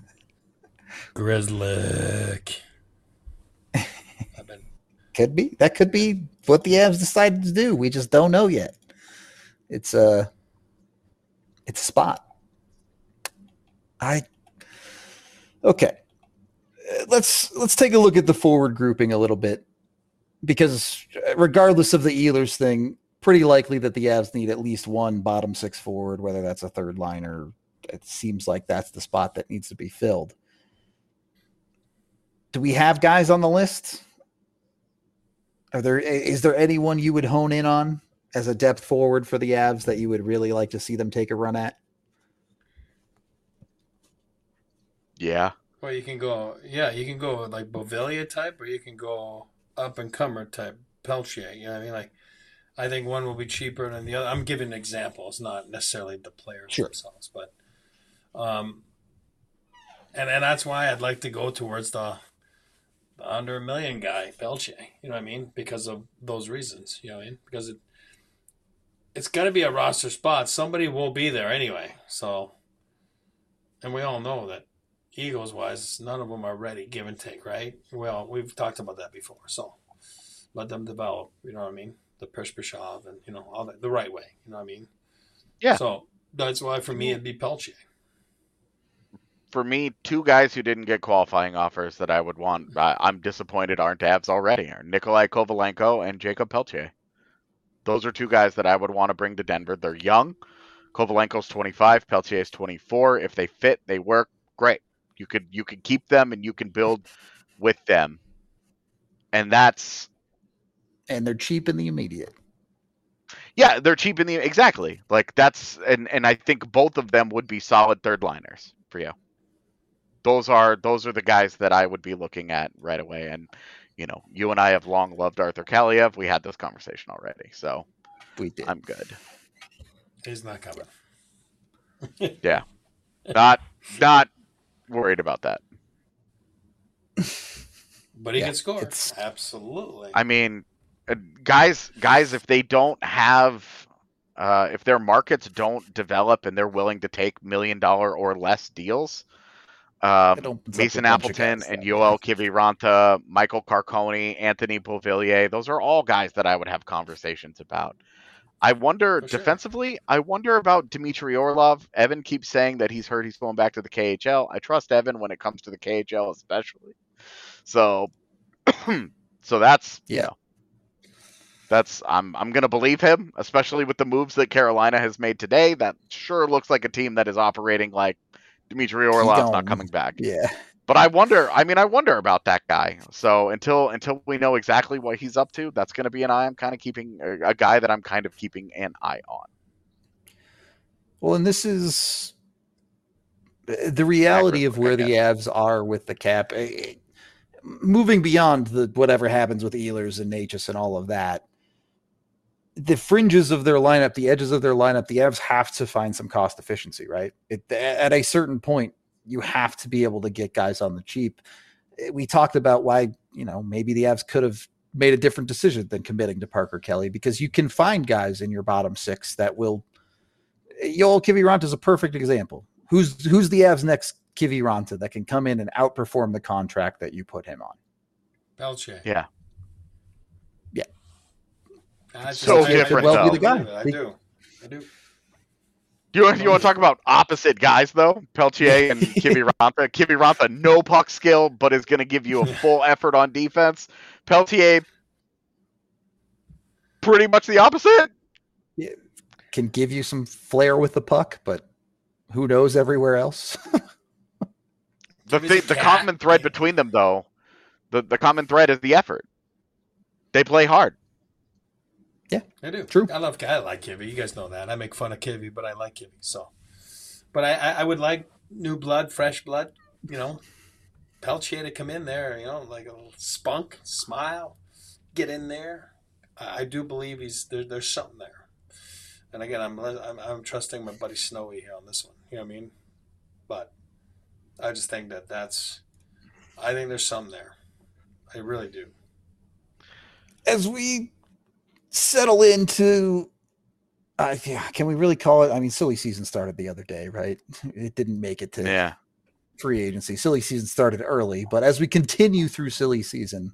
Grizzlick. I've been though. Could be. That could be what the Avs decided to do. We just don't know yet. It's a, it's a spot. I okay. Uh, Let's let's take a look at the forward grouping a little bit, because regardless of the Ehlers thing, pretty likely that the Avs need at least one bottom six forward, whether that's a third liner. It seems like that's the spot that needs to be filled. do we have guys on the list? Are there is there anyone you would hone in on as a depth forward for the Avs that you would really like to see them take a run at? Yeah. Well, you can go, yeah, you can go like Beauvillier type, or you can go up and comer type, Peltier. You know what I mean? Like, I think one will be cheaper than the other. I'm giving examples, not necessarily the players Sure. themselves, but um, and and that's why I'd like to go towards the, the under a million guy, Peltier. You know what I mean? Because of those reasons. You know what I mean? Because it it's got to be a roster spot. Somebody will be there anyway. So, and we all know that. Eagles wise, none of them are ready, give and take, right? Well, we've talked about that before, so let them develop, you know what I mean? The Pershpashov and, you know, all that the right way, you know what I mean? Yeah. So that's why for me it'd be Peltier. For me, two guys who didn't get qualifying offers that I would want, I, I'm disappointed aren't Avs already, are Nikolai Kovalenko and Jacob Peltier. Those are two guys that I would want to bring to Denver. They're young. Kovalenko's twenty-five, Peltier's twenty-four. If they fit, they work, great. You could you could keep them and you can build with them. And that's and they're cheap in the immediate. Yeah, they're cheap in the exactly. Like that's and, and I think both of them would be solid third liners for you. Those are those are the guys that I would be looking at right away. And you know, you and I have long loved Arthur Kaliev. We had this conversation already, so we did. I'm good. He's not coming. yeah. Not not worried about that. But he Yeah, can score. it's- Absolutely. I mean, uh, guys, guys, if they don't have, uh, if their markets don't develop and they're willing to take million dollar or less deals, um, It opens up Mason a bunch of Appleton guys and that- Yoel Kiviranta, Michael Carcone, Anthony Beauvillier, those are all guys that I would have conversations about. I wonder For sure. defensively, I wonder about Dmitry Orlov. Evan keeps saying that he's heard he's going back to the K H L. I trust Evan when it comes to the K H L especially. So so that's Yeah. you know, that's I'm I'm gonna believe him, especially with the moves that Carolina has made today. That sure looks like a team that is operating like Dmitry Orlov's gone. not coming back. Yeah. But I wonder. I mean, I wonder about that guy. So until until we know exactly what he's up to, that's going to be an eye I'm kind of keeping a, a guy that I'm kind of keeping an eye on. Well, and this is the reality of where the Avs are with the cap. Eh, Moving beyond the whatever happens with Ehlers and Natchez and all of that, the fringes of their lineup, the edges of their lineup, the Avs have to find some cost efficiency, right? It, at a certain point, you have to be able to get guys on the cheap. We talked about why, you know, maybe the Avs could have made a different decision than committing to Parker Kelly, because you can find guys in your bottom six that will. Yoel Kiviranta is a perfect example. Who's who's the Avs' next Kiviranta that can come in and outperform the contract that you put him on? Peltier. Yeah. Yeah. I just- So I- I different, do though. believe it. I do. I do. You want, you want to talk about opposite guys, though? Peltier and Kiviranta. Kiviranta, no puck skill, but is going to give you a full effort on defense. Peltier, pretty much the opposite. Can give you some flair with the puck, but who knows everywhere else? The Give us thing, a the cat. common thread between them, though, the, the common thread is the effort. They play hard. I do. True. I love. I like Kivy. You guys know that. I make fun of Kivy, but I like Kivy. So, but I, I, I would like new blood, fresh blood. You know, Peltier to come in there. You know, like a little spunk, smile, get in there. I, I do believe he's there. There's something there. And again, I'm, I'm I'm trusting my buddy Snowy here on this one. You know what I mean? But I just think that that's. I think there's something there. I really do. As we settle into, uh, yeah, can we really call it? I mean, silly season started the other day, right? It didn't make it to Yeah. free agency. Silly season started early, but as we continue through silly season,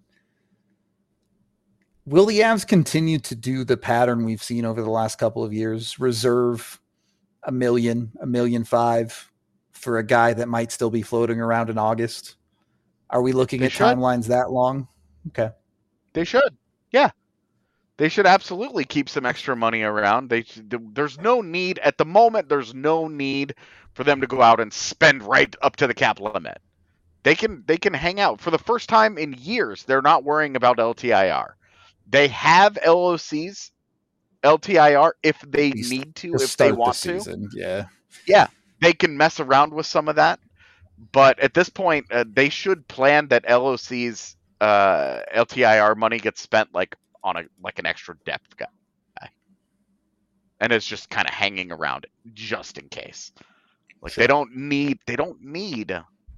will the Avs continue to do the pattern we've seen over the last couple of years? Reserve a million, a million five for a guy that might still be floating around in August? Are we looking They at should. timelines that long? Okay. They should. Yeah. They should absolutely keep some extra money around. They there's no need at the moment. There's no need for them to go out and spend right up to the cap limit. They can they can hang out for the first time in years. They're not worrying about L T I R. They have L O Cs, L T I R if they Least need to, to if they start want the to. season. Yeah. Yeah, they can mess around with some of that. But at this point, uh, they should plan that L O C's uh, L T I R money gets spent like on a like an extra depth guy, and it's just kind of hanging around it just in case. Like Sure. they don't need they don't need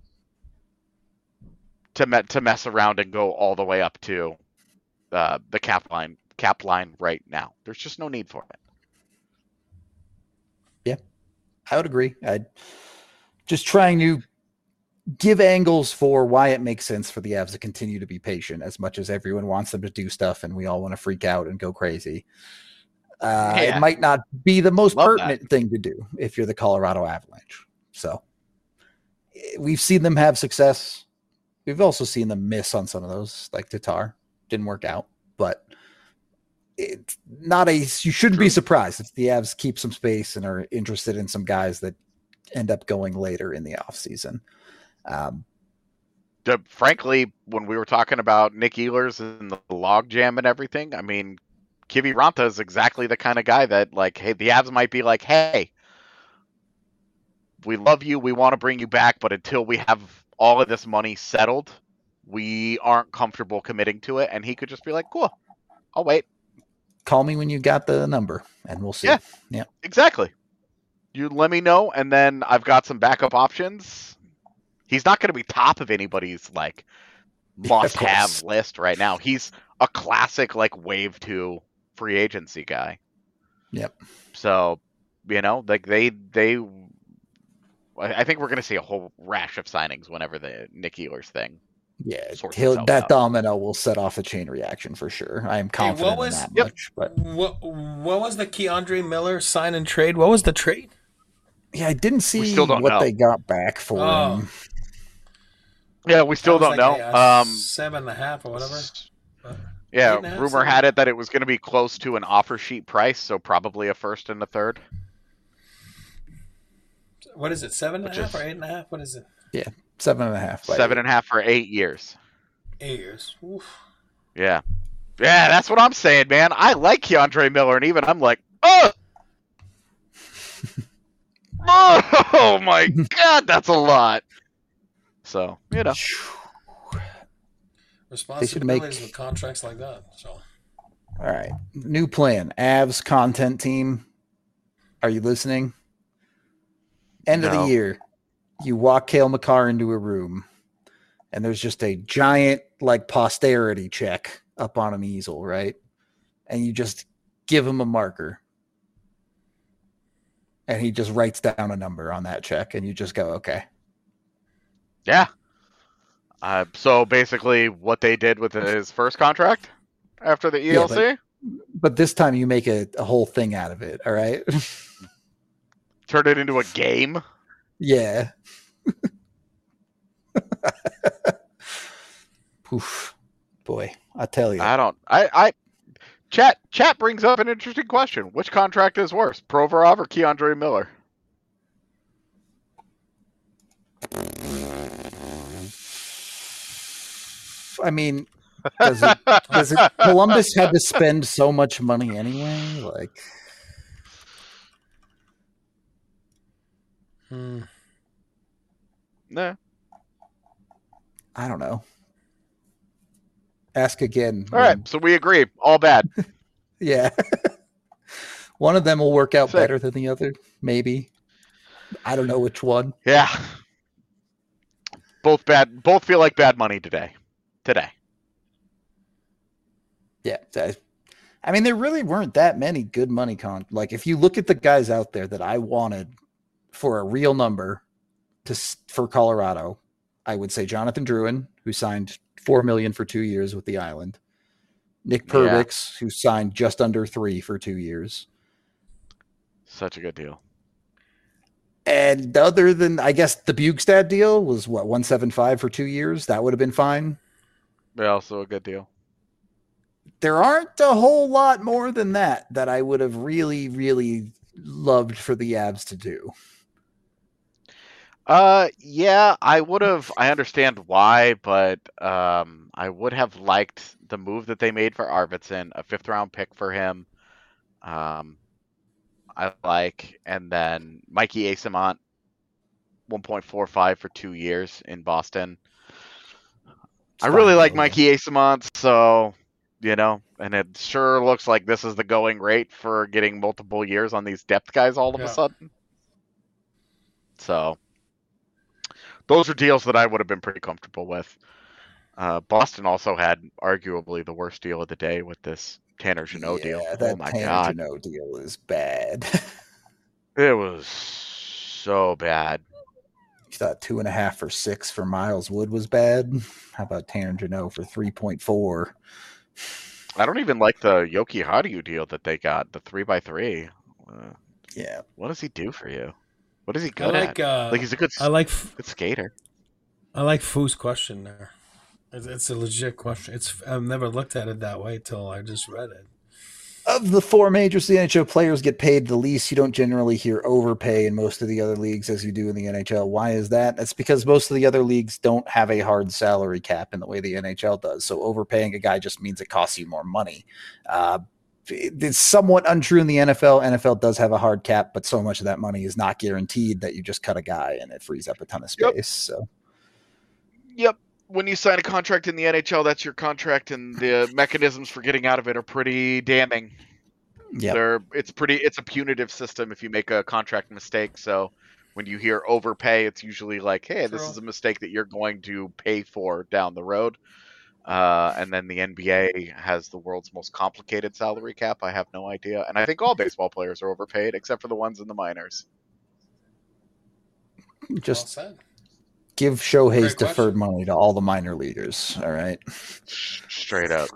to me- to mess around and go all the way up to uh, the cap line cap line right now. There's just no need for it. Yeah, I would agree. I just trying to give angles for why it makes sense for the Avs to continue to be patient as much as everyone wants them to do stuff and we all want to freak out and go crazy. Uh, Yeah. It might not be the most Love pertinent that. thing to do if you're the Colorado Avalanche. So we've seen them have success. We've also seen them miss on some of those, like Tatar. Didn't work out, but it's not a, you shouldn't True. be surprised if the Avs keep some space and are interested in some guys that end up going later in the offseason. Um, The, frankly, when we were talking about Nick Ehlers and the log jam and everything, I mean, Kivi Ranta is exactly the kind of guy that, like, hey, the Avs might be like, hey, we love you, we want to bring you back, but until we have all of this money settled, we aren't comfortable committing to it. And he could just be like, cool, I'll wait. call me when you got the number and we'll see. Yeah. Yeah. Exactly. You let me know, and then I've got some backup options. He's not going to be top of anybody's like must-have course. list right now. He's a classic like wave two free agency guy. Yep. So, you know, like they they, I I think we're going to see a whole rash of signings whenever the Nick Ehlers thing. Yeah. sorts He'll, itself that out. domino will set off a chain reaction for sure. I am confident was- in that Yep. much. But What what was the Keandre Miller sign and trade? What was the trade? yeah, I didn't see still don't what know. they got back for Oh. him. Yeah, we still That was don't like know. a- a um, seven and a half or whatever. Uh, yeah, eight and a half, rumor seven? had it that it was going to be close to an offer sheet price, so probably a first and a third. What is it? Seven and a Which half is- or eight and a half? What is it? Seven and a half. by Seven eight. and a half for eight years. Eight years. Oof. Yeah. Yeah, that's what I'm saying, man. I like Keandre Miller, and even I'm like, oh! oh my god, that's a lot. So, you know. Responsibilities make- with contracts like that. So All right. New plan. Avs content team. Are you listening? End of No. the year. You walk Cale Makar into a room and there's just a giant like posterity check up on an easel, right? And you just give him a marker. And he just writes down a number on that check and you just go, okay. Yeah. Uh, so basically, what they did with his first contract after the E L C, Yeah, But this time you make a, a whole thing out of it, all right? turned it into a game. Yeah. Oof. Boy, I tell you. I don't. I. I. Chat. Chat brings up an interesting question. Which contract is worse, Provorov or Keandre Miller? I mean, does it, does it, Columbus had to spend so much money anyway? Like, hmm. Nah. I don't know. Ask again. All right. So we agree. All bad. Yeah. One of them will work out Sick. better than the other, maybe. I don't know which one. Yeah. Both bad. Both feel like bad money today. Today. Yeah. I, I mean, there really weren't that many good money con. Like, if you look at the guys out there that I wanted for a real number to s- for Colorado, I would say Jonathan Drouin, who signed four million for two years with the Island. Nick Yeah. Perbix, who signed just under three for two years. Such a good deal. And other than, I guess, the Bugstad deal was what, one seventy-five for two years? That would have been fine. But also a good deal. There aren't a whole lot more than that that I would have really, really loved for the Avs to do. Uh, yeah, I would have. I understand why, but um, I would have liked the move that they made for Arvidsson, a fifth round pick for him. Um, I like, and then Mikey Asimont, one point four five for two years in Boston. It's I really fine, like though, Mikey Asimont, so you know, and it sure looks like this is the going rate for getting multiple years on these depth guys all of Yeah. a sudden. So those are deals that I would have been pretty comfortable with. Uh, Boston also had arguably the worst deal of the day with this Tanner Jeannot deal. Yeah, Oh that my Tanner god, Jeannot deal is bad. it was so bad. You thought two and a half for six for Miles Wood was bad. How about Tanner Jeannot for three point four? I don't even like the Yoki Hadiu deal that they got, the three by three. Uh, Yeah, what does he do for you? What is he I good like. at? Uh, Like he's a good, I like. good skater. I like Foo's question there. It's, it's a legit question. It's. I've never looked at it that way till I just read it. of the four majors the N H L players get paid the least, you don't generally hear overpay in most of the other leagues as you do in the N H L. Why is that? That's because most of the other leagues don't have a hard salary cap in the way the N H L does. So overpaying a guy just means it costs you more money. Uh, it's somewhat untrue in the N F L. N F L does have a hard cap, but so much of that money is not guaranteed that you just cut a guy and it frees up a ton of space. Yep. So, Yep. When you sign a contract in the N H L, that's your contract, and the mechanisms for getting out of it are pretty damning. yeah, They're it's pretty it's a punitive system if you make a contract mistake. So when you hear overpay, it's usually like, hey, this True. is a mistake that you're going to pay for down the road. Uh, and then the N B A has the world's most complicated salary cap. I have no idea, and I think all baseball players are overpaid except for the ones in the minors. just Well said. give Shohei's Great deferred question. money to all the minor leaguers. All right. Straight up.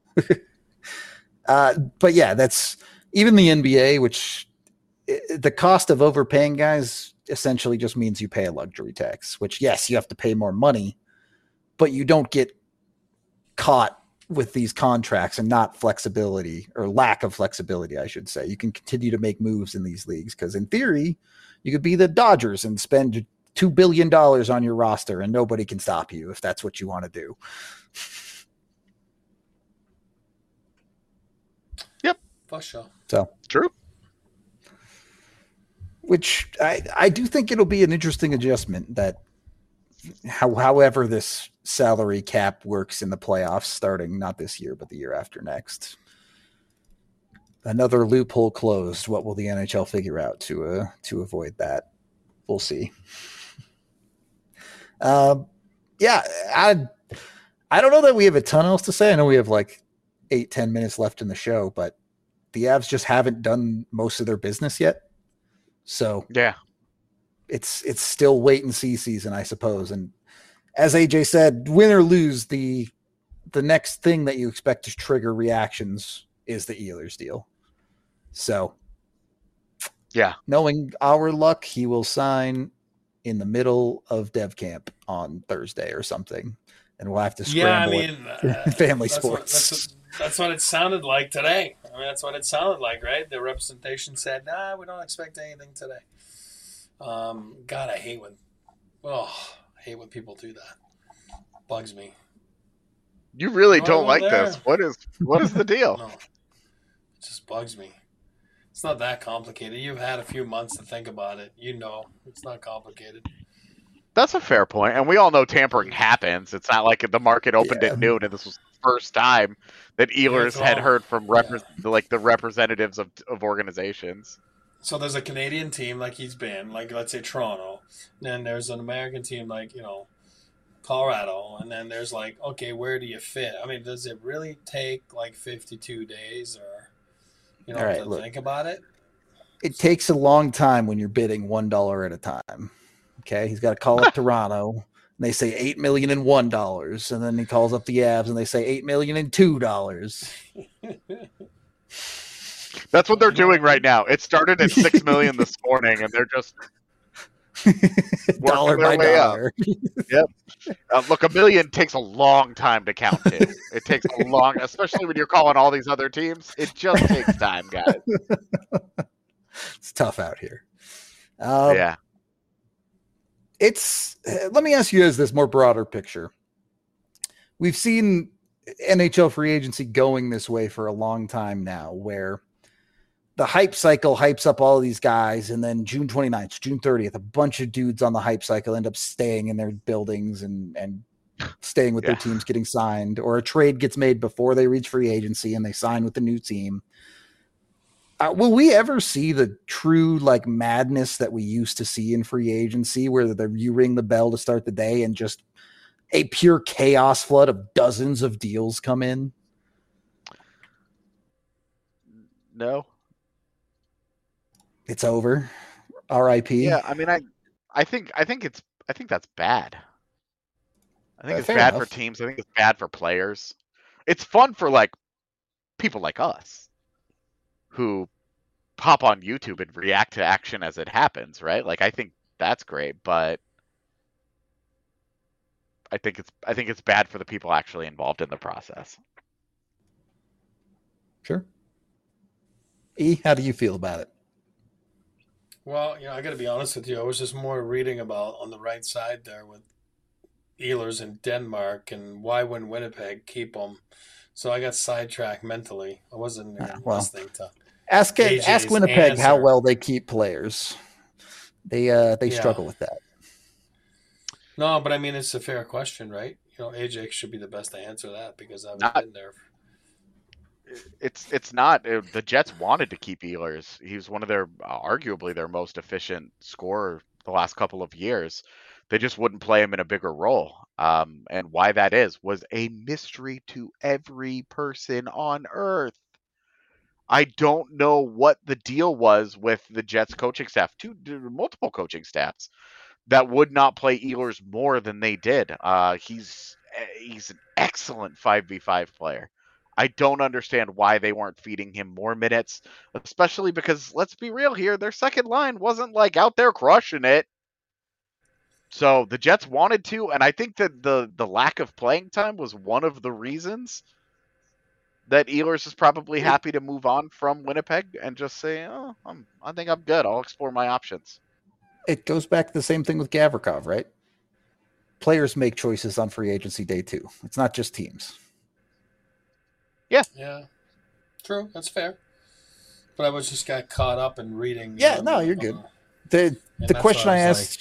Uh, but yeah, that's even the N B A, which i the cost of overpaying guys essentially just means you pay a luxury tax, which, yes, you have to pay more money, but you don't get caught with these contracts and not flexibility or lack of flexibility, I should say. You can continue to make moves in these leagues because, in theory, you could be the Dodgers and spend two billion dollars on your roster and nobody can stop you if that's what you want to do. For sure. So True. which I, I do think it'll be an interesting adjustment that how, however this salary cap works in the playoffs starting not this year, but the year after next. Another loophole closed. What will the N H L figure out to, uh, to avoid that? We'll see. Um, yeah, I, I don't know that we have a ton else to say. I know we have like eight, ten minutes left in the show, but the Avs just haven't done most of their business yet. So Yeah. it's it's still wait and see season, I suppose. And as A J said, win or lose, the the next thing that you expect to trigger reactions is the Ehlers deal. So Yeah. knowing our luck, he will sign in the middle of dev camp on Thursday or something. And we'll have to Yeah, I scramble mean, it. uh, Family that's what, sports. that's, what, that's what it sounded like today. I mean, that's what it sounded like, right? The representation said, "Nah, we don't expect anything today." Um, God, I hate when, oh, I hate when people do that. Bugs me. You really Why don't go like there? this. What is what is the deal? No, it just bugs me. It's not that complicated. You've had a few months to think about it. You know, it's not complicated. That's a fair point, and we all know tampering happens. It's not like the market opened Yeah. at noon, and this was the first time that Ehlers It's had all- heard from repre- like the representatives of of organizations. So there's a Canadian team like he's been, like let's say Toronto. Then there's an American team like, you know, Colorado. And then there's like, okay, where do you fit? I mean, does it really take like fifty-two days or, you know, All right, to look. think about it? It takes a long time when you're bidding one dollar at a time. Okay, he's got to call up Toronto, and they say eight million and one dollars, and then he calls up the Avs, and they say eight million and two dollars. That's what they're doing right now. It started at six million this morning, and they're just Dollar their by way up. dollar. uh, look. A million takes a long time to count to. It takes a long, especially when you're calling all these other teams. It just takes time, guys. It's tough out here. Um, Yeah. it's, let me ask you as this more broader picture. We've seen N H L free agency going this way for a long time now, where the hype cycle hypes up all of these guys, and then June twenty-ninth, June thirtieth, a bunch of dudes on the hype cycle end up staying in their buildings and, and staying with yeah. their teams, getting signed, or a trade gets made before they reach free agency and they sign with the new team. Uh, will we ever see the true like madness that we used to see in free agency, where the, you ring the bell to start the day and just a pure chaos flood of dozens of deals come in? No. It's over. R I P. Yeah, I mean, I, I think, I think it's, I think that's bad. I think Uh, it's bad enough. for teams. I think it's bad for players. It's fun for like people like us who pop on YouTube and react to action as it happens, right? Like, I think that's great, but I think it's, I think it's bad for the people actually involved in the process. Sure. E, how do you feel about it? Well, you know, I got to be honest with you. I was just more reading about on the right side there with Ehlers in Denmark and why wouldn't Winnipeg keep them. So I got sidetracked mentally. I wasn't uh, well, listening to ask it, ask Winnipeg answer. How well they keep players. They uh they yeah. struggle with that. No, but I mean it's a fair question, right? You know, A J should be the best to answer that because I've not, been there. It's it's not it, the Jets wanted to keep Ehlers. He was one of their uh, arguably their most efficient scorer the last couple of years. They just wouldn't play him in a bigger role. Um, and why that is was a mystery to every person on earth. I don't know what the deal was with the Jets coaching staff, two multiple coaching staffs that would not play Ehlers more than they did. Uh, he's he's an excellent five v five player. I don't understand why they weren't feeding him more minutes, especially because let's be real here, their second line wasn't like out there crushing it. So the Jets wanted to, and I think that the the lack of playing time was one of the reasons that Ehlers is probably happy to move on from Winnipeg and just say, "Oh, I'm, I think I'm good. I'll explore my options." It goes back to the same thing with Gavrikov, right? Players make choices on free agency day too. It's not just teams. Yeah, yeah, true. That's fair. But I was just got caught up in reading. Yeah, um, no, you're good. Uh, the the question I, I asked. Like,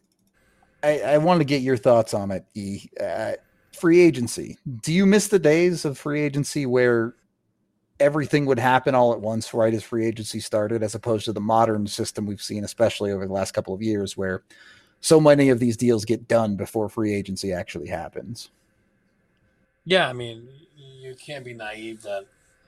I, I wanted to get your thoughts on it, E. Uh, free agency. Do you miss the days of free agency where everything would happen all at once right as free agency started, as opposed to the modern system we've seen, especially over the last couple of years, where so many of these deals get done before free agency actually happens? Yeah, I mean, you can't be naive that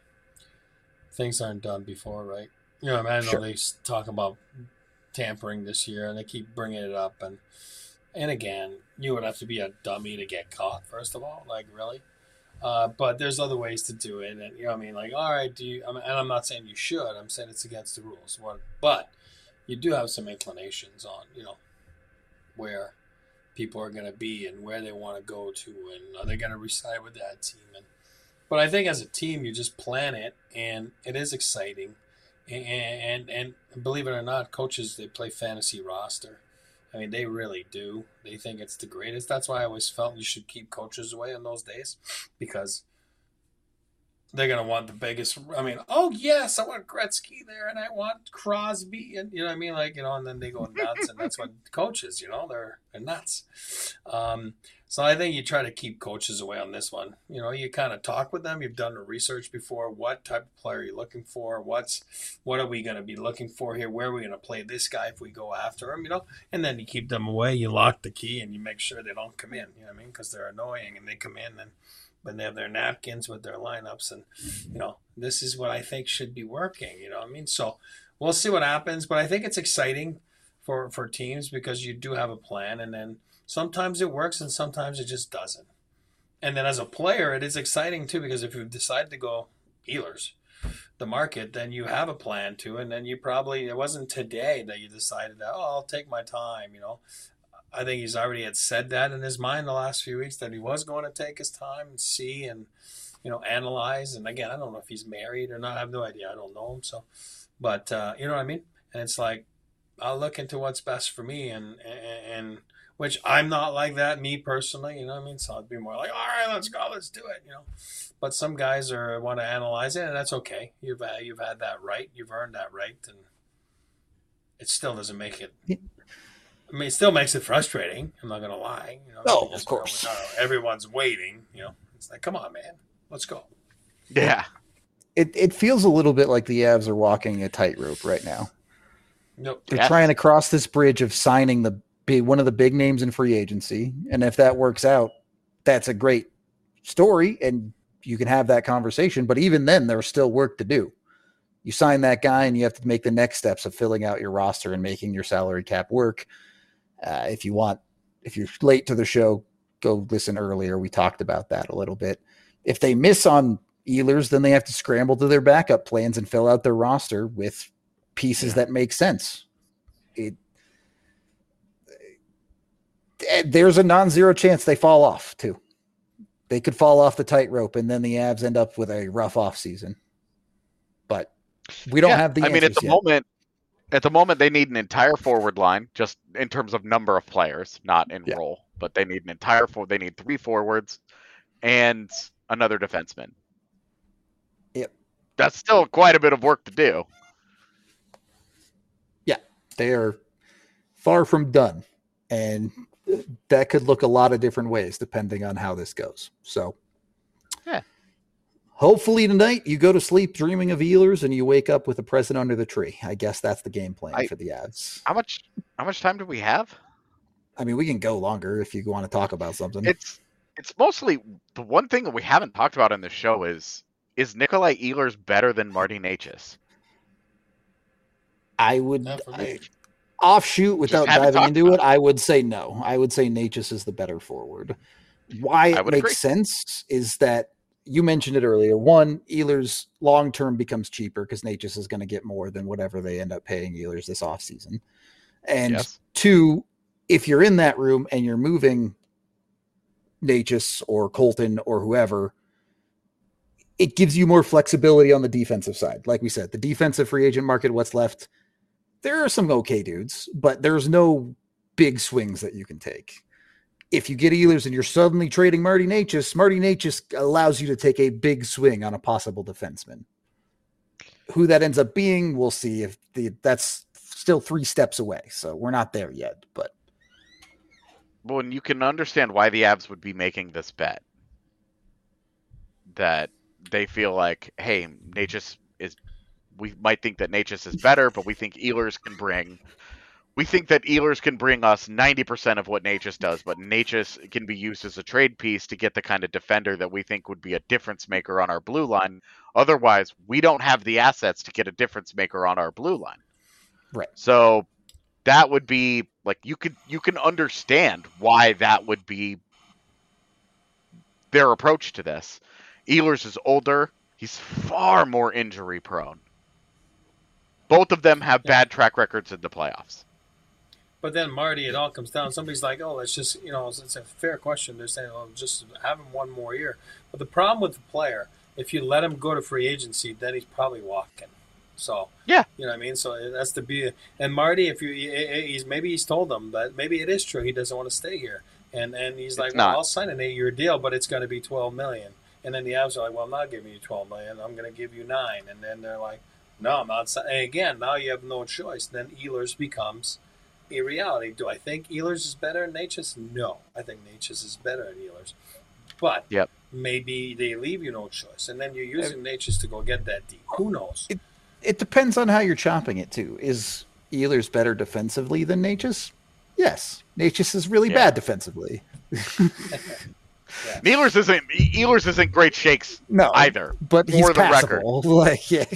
things aren't done before, right? You know, I, mean, I know sure. they talk about tampering this year, and they keep bringing it up, and And again, you would have to be a dummy to get caught, first of all, like really. Uh, but there's other ways to do it. And, you know what I mean? Like, all right, do you, I mean, and I'm not saying you should. I'm saying it's against the rules. But you do have some inclinations on, you know, where people are going to be and where they want to go to. And are they going to reside with that team? And, but I think as a team, you just plan it. And it is exciting. And, and, and believe it or not, coaches, they play fantasy roster. I mean, they really do. They think it's the greatest. That's why I always felt you should keep coaches away in those days, because they're going to want the biggest. I mean, oh, yes, I want Gretzky there, and I want Crosby. And you know what I mean? Like, you know, and then they go nuts, and that's what coaches, you know, they're, they're nuts. Um, so I think you try to keep coaches away on this one. You know, you kind of talk with them. You've done the research before. What type of player are you looking for? What's what are we going to be looking for here? Where are we going to play this guy if we go after him? You know, and then you keep them away. You lock the key, and you make sure they don't come in. You know what I mean? Because they're annoying, and they come in, and when they have their napkins with their lineups, and you know, this is what I think should be working. You know what I mean? So we'll see what happens, but I think it's exciting for for teams because you do have a plan, and then sometimes it works and sometimes it just doesn't. And then as a player, it is exciting too, because if you decide to go Ehlers, the market, then you have a plan too. And then you probably, it wasn't today that you decided that, oh, I'll take my time, you know. I think he's already had said that in his mind the last few weeks, that he was going to take his time and see and, you know, analyze. And again, I don't know if he's married or not. I have no idea. I don't know him. So, but uh, you know what I mean? And it's like, I'll look into what's best for me, and, and and which I'm not like that, me personally. You know what I mean? So I'd be more like, all right, let's go, let's do it. You know, but some guys are want to analyze it, and that's okay. You've uh, you've had that right, you've earned that right, and it still doesn't make it. I mean, it still makes it frustrating. I'm not gonna lie. You know, Oh, just of course. Go, oh, everyone's waiting. You know, it's like, come on, man, let's go. Yeah. It it feels a little bit like the Avs are walking a tightrope right now. Nope. They're Yes. trying to cross this bridge of signing the big one of the big names in free agency, and if that works out, that's a great story, and you can have that conversation. But even then, there's still work to do. You sign that guy, and you have to make the next steps of filling out your roster and making your salary cap work. Uh, if you want, if you're late to the show, go listen earlier. We talked about that a little bit. If they miss on Ehlers, then they have to scramble to their backup plans and fill out their roster with pieces Yeah. that make sense. It, there's a non-zero chance they fall off too. They could fall off the tightrope, and then the Avs end up with a rough off season. But we don't Yeah, have the I mean, at answers the yet. moment, at the moment, they need an entire forward line, just in terms of number of players, not in Yeah. role. But they need an entire for. They need three forwards and another defenseman. Yep. That's still quite a bit of work to do. They are far from done, and that could look a lot of different ways depending on how this goes. So, Yeah. Hopefully tonight you go to sleep dreaming of Ehlers and you wake up with a present under the tree. I guess that's the game plan I- for the Avs. How much? How much time do we have? I mean, we can go longer if you want to talk about something. It's it's mostly the one thing that we haven't talked about in the show is is Nikolai Ehlers better than Marty Necas? I would Not for me. I, offshoot without haven't diving talked into it. about I would say no. I would say Natchez is the better forward. Why I it would makes agree. sense is that you mentioned it earlier. One, Ehlers long term becomes cheaper because Natchez is going to get more than whatever they end up paying Ehlers this offseason. And Yes. two, if you're in that room and you're moving Natchez or Colton or whoever, it gives you more flexibility on the defensive side. Like we said, the defensive free agent market, what's left, there are some okay dudes, but there's no big swings that you can take. If you get Ehlers and you're suddenly trading Marty Necas, Marty Necas allows you to take a big swing on a possible defenseman. Who that ends up being, we'll see. If the that's still three steps away, so we're not there yet. But Well, and you can understand why the Avs would be making this bet. That they feel like, hey, Necas is. We might think that Necas is better, but we think Ehlers can bring. We think that Ehlers can bring us ninety percent of what Necas does, but Necas can be used as a trade piece to get the kind of defender that we think would be a difference maker on our blue line. Otherwise, we don't have the assets to get a difference maker on our blue line. right, So that would be like you could you can understand why that would be their approach to this. Ehlers is older. He's far more injury prone. Both of them have Yeah. bad track records in the playoffs. But then Marty, it all comes down. Somebody's like, "Oh, let's just," you know, it's, it's a fair question. They're saying, "Oh, just have him one more year." But the problem with the player, if you let him go to free agency, then he's probably walking. So Yeah. you know what I mean. So that's the be. And Marty, if you, he's maybe he's told them that maybe it is true. He doesn't want to stay here, and and he's like, It's "Well, not. I'll sign an eight-year deal, but it's going to be twelve million." And then the Avs are like, "Well, I'm not giving you twelve million. I'm going to give you nine." And then they're like, "No, I'm not." si-" And again, now you have no choice. Then Ehlers becomes a reality. Do I think Ehlers is better than Necas? No. I think Necas is better than Ehlers. But Yep. maybe they leave you no choice. And then you're using Necas to go get that deep. Who knows? it depends on how you're chopping it too. Is Ehlers better defensively than Natchez? Yes, Natchez is really Yeah. bad defensively. Ehlers isn't Ehlers isn't great shakes No, either. but he's For the record. passable. Like, yeah.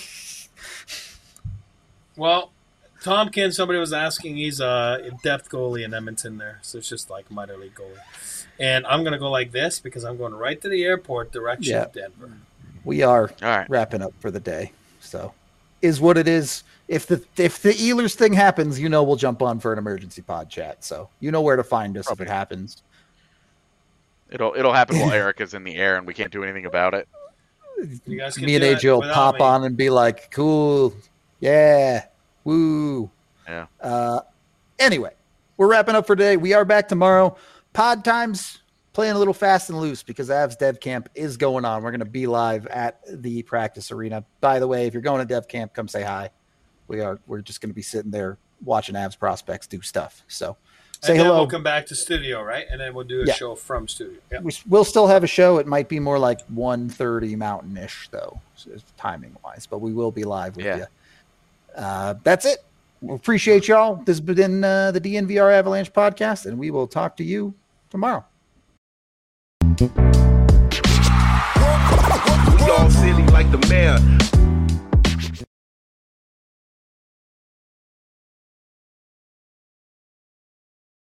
Well, Tompkins, somebody was asking, he's a depth goalie in Edmonton there. So it's just like minor league goalie. And I'm going to go like this because I'm going right to the airport direction Yeah. of Denver. We are All right. wrapping up for the day. So is what it is. If the if the Ehlers thing happens, you know we'll jump on for an emergency pod chat. So you know where to find us if it happens. It'll it'll happen while Eric is in the air and we can't do anything about it. You guys can Me and do A it J will without pop me. on and be like, cool, yeah, woo. Yeah. Uh, anyway, we're wrapping up for today. We are back tomorrow. Pod times playing a little fast and loose because Avs Dev Camp is going on. We're going to be live at the practice arena. By the way, if you're going to Dev Camp, come say hi. We are. We're just going to be sitting there watching Avs prospects do stuff. So say and then hello. We'll come back to studio, right? And then we'll do a Yeah. show from studio. Yeah. We, we'll still have a show. It might be more like one thirty Mountain-ish, though, timing-wise. But we will be live with Yeah. you. Uh, that's it. We appreciate y'all. This has been uh, the D N V R Avalanche podcast, and we will talk to you tomorrow. Welcome, welcome.